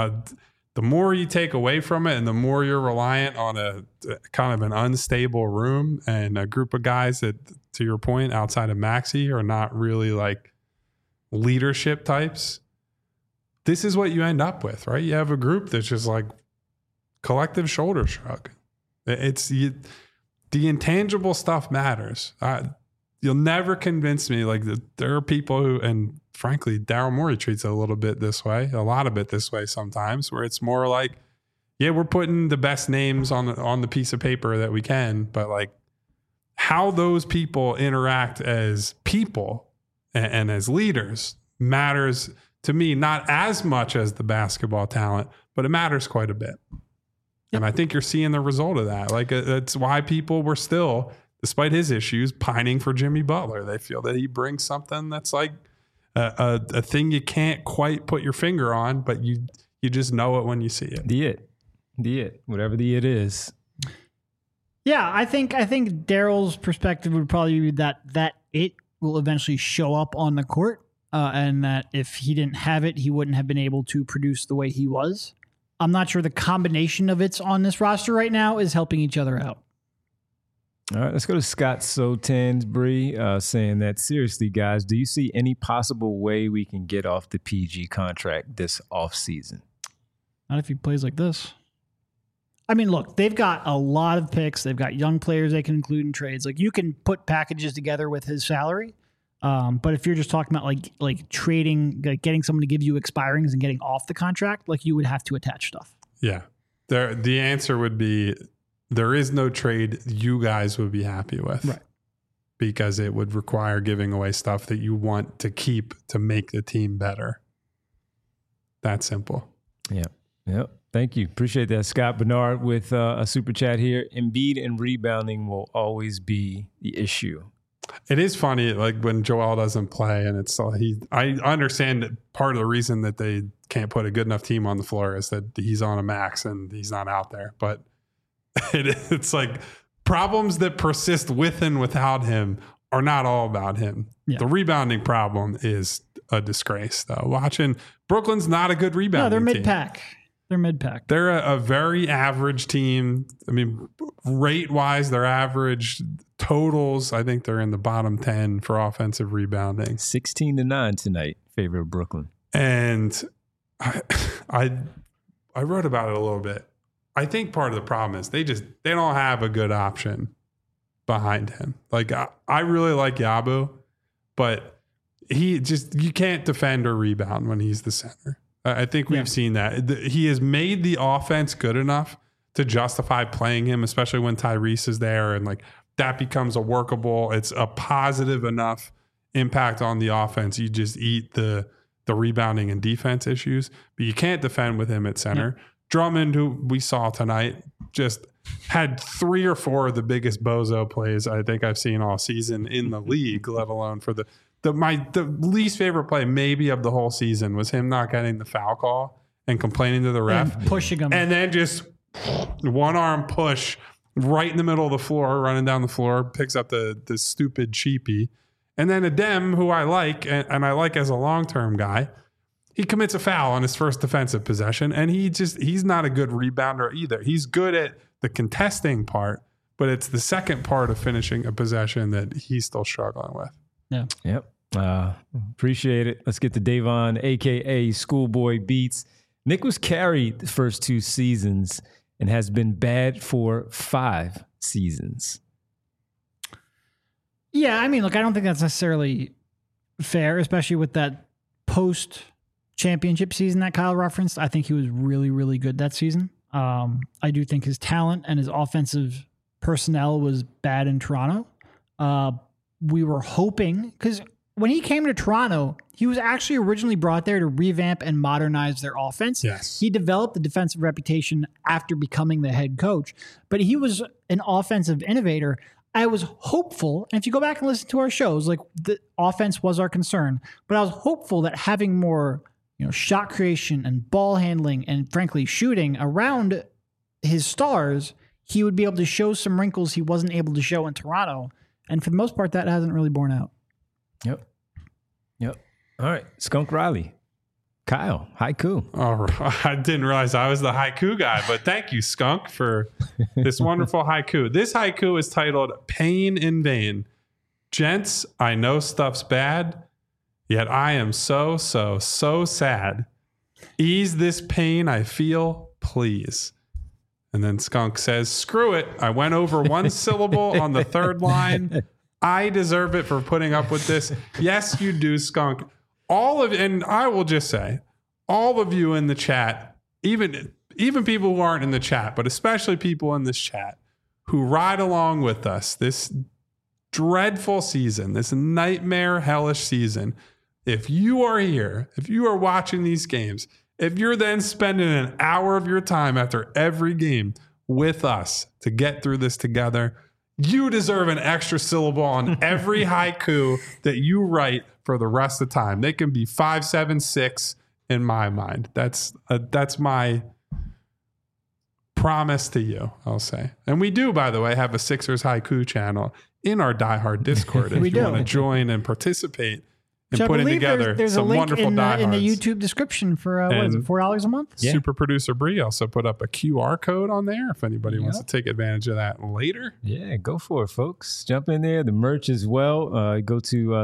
the more you take away from it and the more you're reliant on a kind of an unstable room and a group of guys that, to your point, outside of Maxey are not really like leadership types, this is what you end up with, right? You have a group that's just like collective shoulder shrug. The intangible stuff matters. You'll never convince me. Like there are people who, and frankly, Daryl Morey treats it a little bit this way, a lot of it this way sometimes, where it's more like, yeah, we're putting the best names on the piece of paper that we can, but like how those people interact as people and as leaders matters to me, not as much as the basketball talent, but it matters quite a bit. And I think you're seeing the result of that. Like that's why people were still, despite his issues, pining for Jimmy Butler. They feel that he brings something that's like a thing you can't quite put your finger on, but you just know it when you see it. The it, whatever the it is. Yeah, I think Daryl's perspective would probably be that it will eventually show up on the court, and that if he didn't have it, he wouldn't have been able to produce the way he was. I'm not sure the combination of it's on this roster right now is helping each other out. All right, let's go to Scott Sotansbury saying that, seriously, guys, do you see any possible way we can get off the PG contract this offseason? Not if he plays like this. I mean, look, they've got a lot of picks. They've got young players they can include in trades. Like you can put packages together with his salary. But if you're just talking about like trading, like getting someone to give you expirings and getting off the contract, like you would have to attach stuff. Yeah. The answer would be there is no trade you guys would be happy with. Right. Because it would require giving away stuff that you want to keep to make the team better. That simple. Yep. Thank you. Appreciate that. Scott Bernard with a super chat here. Embiid and rebounding will always be the issue. It is funny, like when Joel doesn't play, and it's I understand that part of the reason that they can't put a good enough team on the floor is that he's on a max and he's not out there. But it's like problems that persist with and without him are not all about him. Yeah. The rebounding problem is a disgrace, though. Watching Brooklyn's not a good rebounding team. No, they're mid-pack. They're mid-pack. They're a very average team. I mean, rate-wise, they're average. Totals, I think they're in the bottom 10 for offensive rebounding. 16-9 tonight, favor of Brooklyn. And I wrote about it a little bit. I think part of the problem is they don't have a good option behind him. Like I really like Yabu, but you can't defend or rebound when he's the center. I think we've seen that. He has made the offense good enough to justify playing him, especially when Tyrese is there, and like that becomes a workable. It's a positive enough impact on the offense. You just eat the rebounding and defense issues, but you can't defend with him at center. Yeah. Drummond, who we saw tonight, just had 3 or 4 of the biggest bozo plays I think I've seen all season in the league, let alone for the least favorite play maybe of the whole season was him not getting the foul call and complaining to the ref. And pushing him. And then just one arm push right in the middle of the floor, running down the floor, picks up the stupid cheapie And then Adem, who I like, and I like as a long-term guy, he commits a foul on his first defensive possession, and he's not a good rebounder either. He's good at the contesting part, but it's the second part of finishing a possession that he's still struggling with. Yeah. Yep. Appreciate it. Let's get to Davon, a.k.a. Schoolboy Beats. Nick was carried the first 2 seasons and has been bad for 5 seasons. Yeah, I mean, look, I don't think that's necessarily fair, especially with that post-championship season that Kyle referenced. I think he was really, really good that season. I do think his talent and his offensive personnel was bad in Toronto. We were hoping, because when he came to Toronto, he was actually originally brought there to revamp and modernize their offense. Yes. He developed the defensive reputation after becoming the head coach, but he was an offensive innovator. I was hopeful, and if you go back and listen to our shows, like the offense was our concern, but I was hopeful that having more, shot creation and ball handling and frankly shooting around his stars, he would be able to show some wrinkles he wasn't able to show in Toronto. And for the most part, that hasn't really borne out. Yep. All right. Skunk Riley. Kyle, haiku. Oh, I didn't realize I was the haiku guy, but thank you, Skunk, for this wonderful haiku. This haiku is titled Pain in Vain. Gents, I know stuff's bad, yet I am so sad. Ease this pain I feel, please. And then Skunk says, screw it. I went over 1 syllable on the 3rd line. I deserve it for putting up with this. Yes, you do, Skunk. And I will just say, all of you in the chat, even people who aren't in the chat, but especially people in this chat who ride along with us this dreadful season, this nightmare hellish season. If you are here, if you are watching these games, if you're then spending an hour of your time after every game with us to get through this together, you deserve an extra syllable on every haiku that you write for the rest of the time. They can be 5, 7, 6 in my mind. That's my promise to you, I'll say. And we do, by the way, have a Sixers haiku channel in our Die Hard Discord. If you want to join and participate in putting together there's some a link wonderful in diehards. the YouTube description for what is it, $4 a month? Yeah. Super producer Bree also put up a QR code on there if anybody wants to take advantage of that later. Yeah, go for it, folks. Jump in there. The merch as well. Go to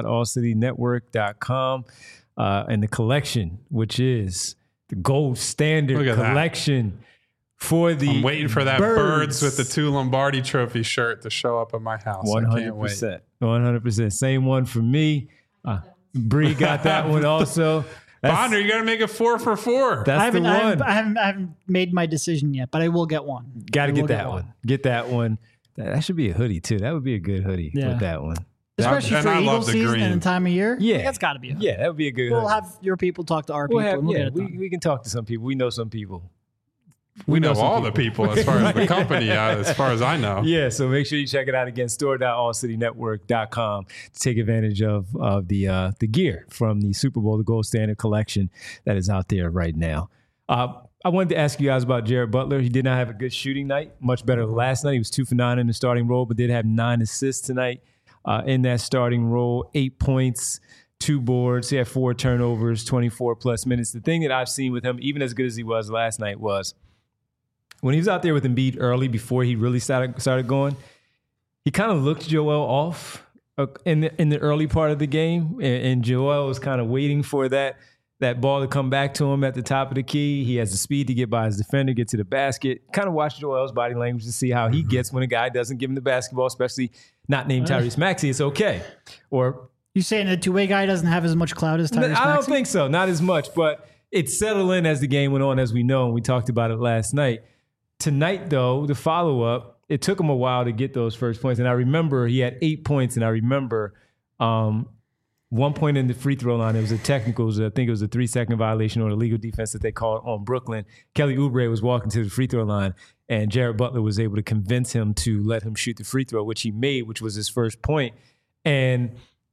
store.allcitynetwork.com and the collection, which is the gold standard collection for the I'm waiting for that birds with the 2 Lombardi Trophy shirt to show up at my house. 100%. I can't wait. 100%. Same one for me. Bree got that one also. Bonner, you got to make it 4 for 4. That's the one. I haven't made my decision yet, but I will get one. Got to get that one. Get that one. That should be a hoodie too. That would be a good hoodie with that one. Especially for I Eagle love the season green. and the time of year. Yeah. That's got to be a hoodie. Yeah, that would be a good We'll hoodie. have your people talk to our people. And we'll get it done. we can talk to some people. We know some people. We know some all the people as far as the company, as far as I know. Yeah, so make sure you check it out again, store.allcitynetwork.com to take advantage of the gear from the Super Bowl, the Gold Standard collection that is out there right now. I wanted to ask you guys about Jared Butler. He did not have a good shooting night, much better than last night. He was 2 for 9 in the starting role, but did have 9 assists tonight in that starting role, 8 points, 2 boards. He had 4 turnovers, 24 plus minutes. The thing that I've seen with him, even as good as he was last night, was when he was out there with Embiid early before he really started going, he kind of looked Joel off in the early part of the game, and Joel was kind of waiting for that ball to come back to him at the top of the key. He has the speed to get by his defender, get to the basket. Kind of watch Joel's body language to see how he gets when a guy doesn't give him the basketball, especially not named Tyrese Maxey. It's okay. Or you saying the two-way guy doesn't have as much clout as Tyrese Maxey? I don't think so. Not as much, but it settled in as the game went on, as we know, and we talked about it last night. Tonight, though, the follow-up, it took him a while to get those first points. And I remember he had 8 points, and I remember 1 point in the free throw line. It was a technical. I think it was a 3-second violation or a legal defense that they called on Brooklyn. Kelly Oubre was walking to the free throw line, and Jared Butler was able to convince him to let him shoot the free throw, which he made, which was his first point. And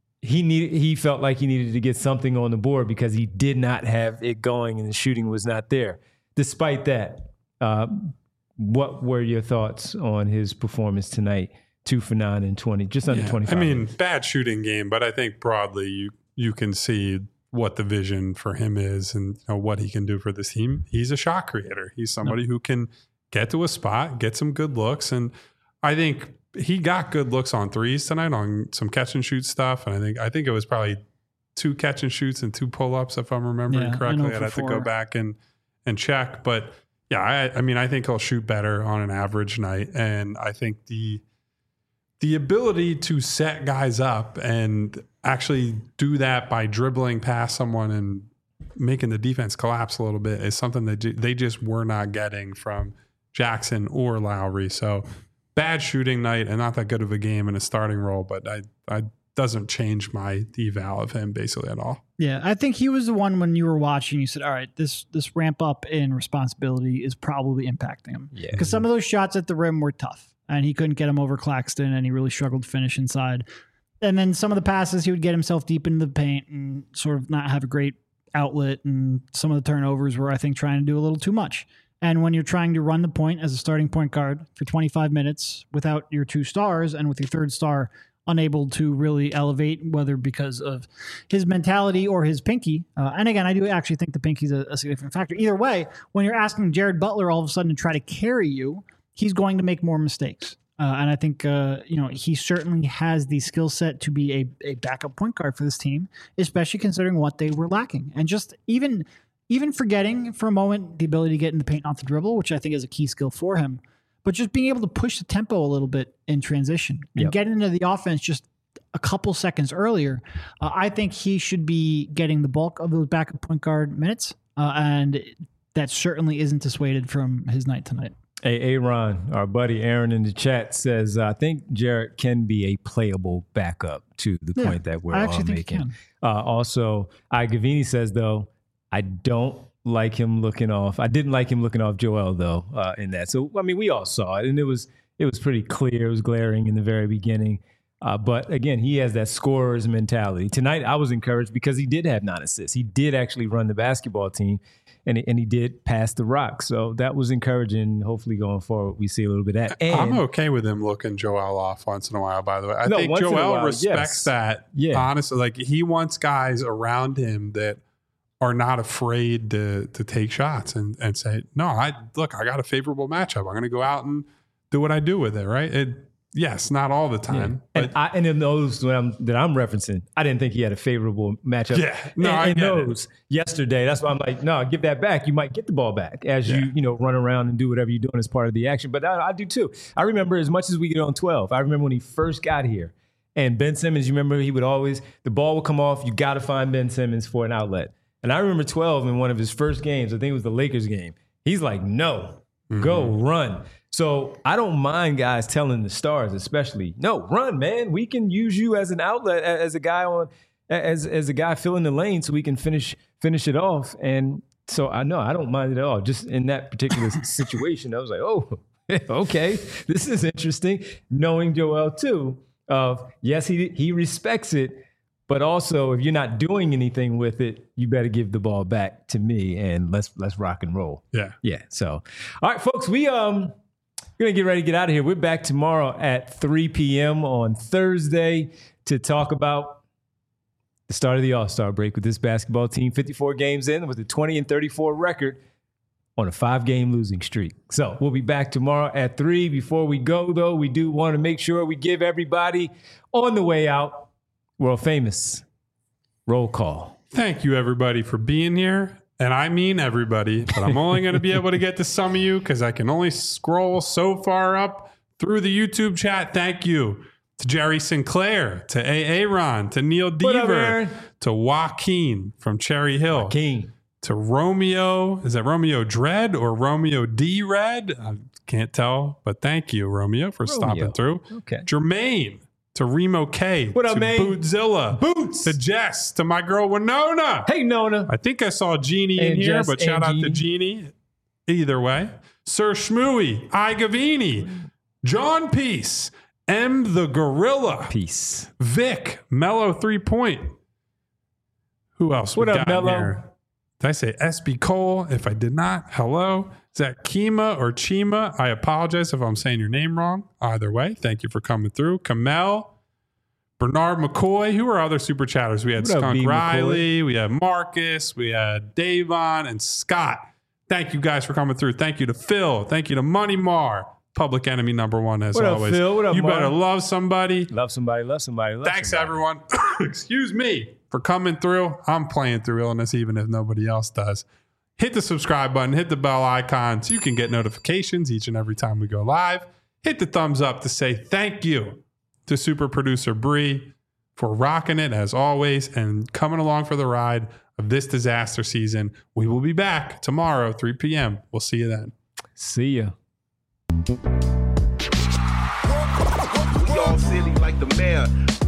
he felt like he needed to get something on the board because he did not have it going and the shooting was not there. Despite that, what were your thoughts on his performance tonight 2 for 9 and 20, just under 25. I mean, bad shooting game, but I think broadly you can see what the vision for him is and what he can do for this team. He's a shot creator. He's somebody who can get to a spot, get some good looks, and I think he got good looks on threes tonight on some catch and shoot stuff. And I think it was probably 2 catch and shoots and 2 pull-ups, if I'm remembering correctly. I'd have to go back and check. But yeah, I mean, I think he'll shoot better on an average night. And I think the ability to set guys up and actually do that by dribbling past someone and making the defense collapse a little bit is something that they just were not getting from Jackson or Lowry. So bad shooting night and not that good of a game in a starting role, but I doesn't change my eval of him basically at all. Yeah, I think he was the one when you were watching, you said, all right, this ramp up in responsibility is probably impacting him. Yeah. Because some of those shots at the rim were tough, and he couldn't get them over Claxton, and he really struggled to finish inside. And then some of the passes, he would get himself deep into the paint and sort of not have a great outlet, and some of the turnovers were, I think, trying to do a little too much. And when you're trying to run the point as a starting point guard for 25 minutes without your 2 stars and with your 3rd star unable to really elevate, whether because of his mentality or his pinky. And again, I do actually think the pinky's a significant factor. Either way, when you're asking Jared Butler all of a sudden to try to carry you, he's going to make more mistakes. And I think, he certainly has the skill set to be a backup point guard for this team, especially considering what they were lacking. And just even forgetting for a moment the ability to get in the paint off the dribble, which I think is a key skill for him, but just being able to push the tempo a little bit in transition and get into the offense just a couple seconds earlier. I think he should be getting the bulk of those backup point guard minutes, and that certainly isn't dissuaded from his night tonight. Hey, Aaron, our buddy Aaron in the chat says, I think Jarrett can be a playable backup to the point that we're all making. Also, Gavini says, though, I don't like him looking off. I didn't like him looking off Joel, though, in that. So, I mean, we all saw it, and it was pretty clear. It was glaring in the very beginning. But, again, he has that scorer's mentality. Tonight, I was encouraged because he did have 9 assists. He did actually run the basketball team, and he did pass the rock. So that was encouraging. Hopefully, going forward, we see a little bit of that. And I'm okay with him looking Joel off once in a while, by the way. I think Joel respects that, honestly. Like, he wants guys around him that are not afraid to take shots and say, no, I got a favorable matchup. I'm going to go out and do what I do with it, right? Yes, not all the time. Yeah. And in those that I'm referencing, I didn't think he had a favorable matchup. Yeah, no, I get those yesterday. That's why I'm like, no, give that back. You might get the ball back as you run around and do whatever you're doing as part of the action. But I do too. I remember as much as we get on 12. I remember when he first got here, and Ben Simmons. You remember he would always the ball would come off. You got to find Ben Simmons for an outlet. And I remember 12 in one of his first games. I think it was the Lakers game. He's like, no, go run. So I don't mind guys telling the stars, especially, no, run, man. We can use you as an outlet, as a guy as a guy filling the lane, so we can finish it off. And so I don't mind it at all. Just in that particular situation, I was like, oh, okay, this is interesting. Knowing Joel too, of yes, he respects it. But also, if you're not doing anything with it, you better give the ball back to me, and let's rock and roll. Yeah. So, all right, folks, we're gonna get ready to get out of here. We're back tomorrow at 3 p.m. on Thursday to talk about the start of the All-Star break with this basketball team. 54 games in with a 20-34 record on a 5-game losing streak. So we'll be back tomorrow at 3. Before we go, though, we do want to make sure we give everybody on the way out world famous roll call. Thank you, everybody, for being here. And I mean everybody, but I'm only going to be able to get to some of you because I can only scroll so far up through the YouTube chat. Thank you to Jerry Sinclair, to Aaron, to Neil Deaver, to Joaquin from Cherry Hill, to Romeo. Is that Romeo Dread or Romeo D Red? I can't tell, but thank you, Romeo, for stopping through. Okay. Jermaine. To Remo K. What up, to man? Bootzilla. Boots. To Jess. To my girl Winona. Hey, Nona. I think I saw Jeannie in here, Jess but shout out Jeannie. to Jeannie. Either way. Sir Shmooey. I Gavini. John Peace. M the Gorilla. Peace. Vic. Mellow 3 Point. Who else? What we up, got Mello? here? Did I say SB Cole? If I did not, hello. Is that Kima or Chima? I apologize if I'm saying your name wrong. Either way, thank you for coming through. Kamel, Bernard McCoy. Who are other super chatters? We had What up, Skunk B. Riley. We had Marcus. We had Davon and Scott. Thank you guys for coming through. Thank you to Phil. Thank you to Money Mar. Public enemy number one, as What up, always. Phil? What up, you Mar? better love somebody. Love somebody, love somebody, love Thanks, somebody. everyone. Excuse me for coming through. I'm playing through illness, even if nobody else does. Hit the subscribe button, hit the bell icon so you can get notifications each and every time we go live. Hit the thumbs up to say thank you to super producer Bree for rocking it as always and coming along for the ride of this disaster season. We will be back tomorrow, 3 p.m. We'll see you then. See ya. We all silly like the mayor.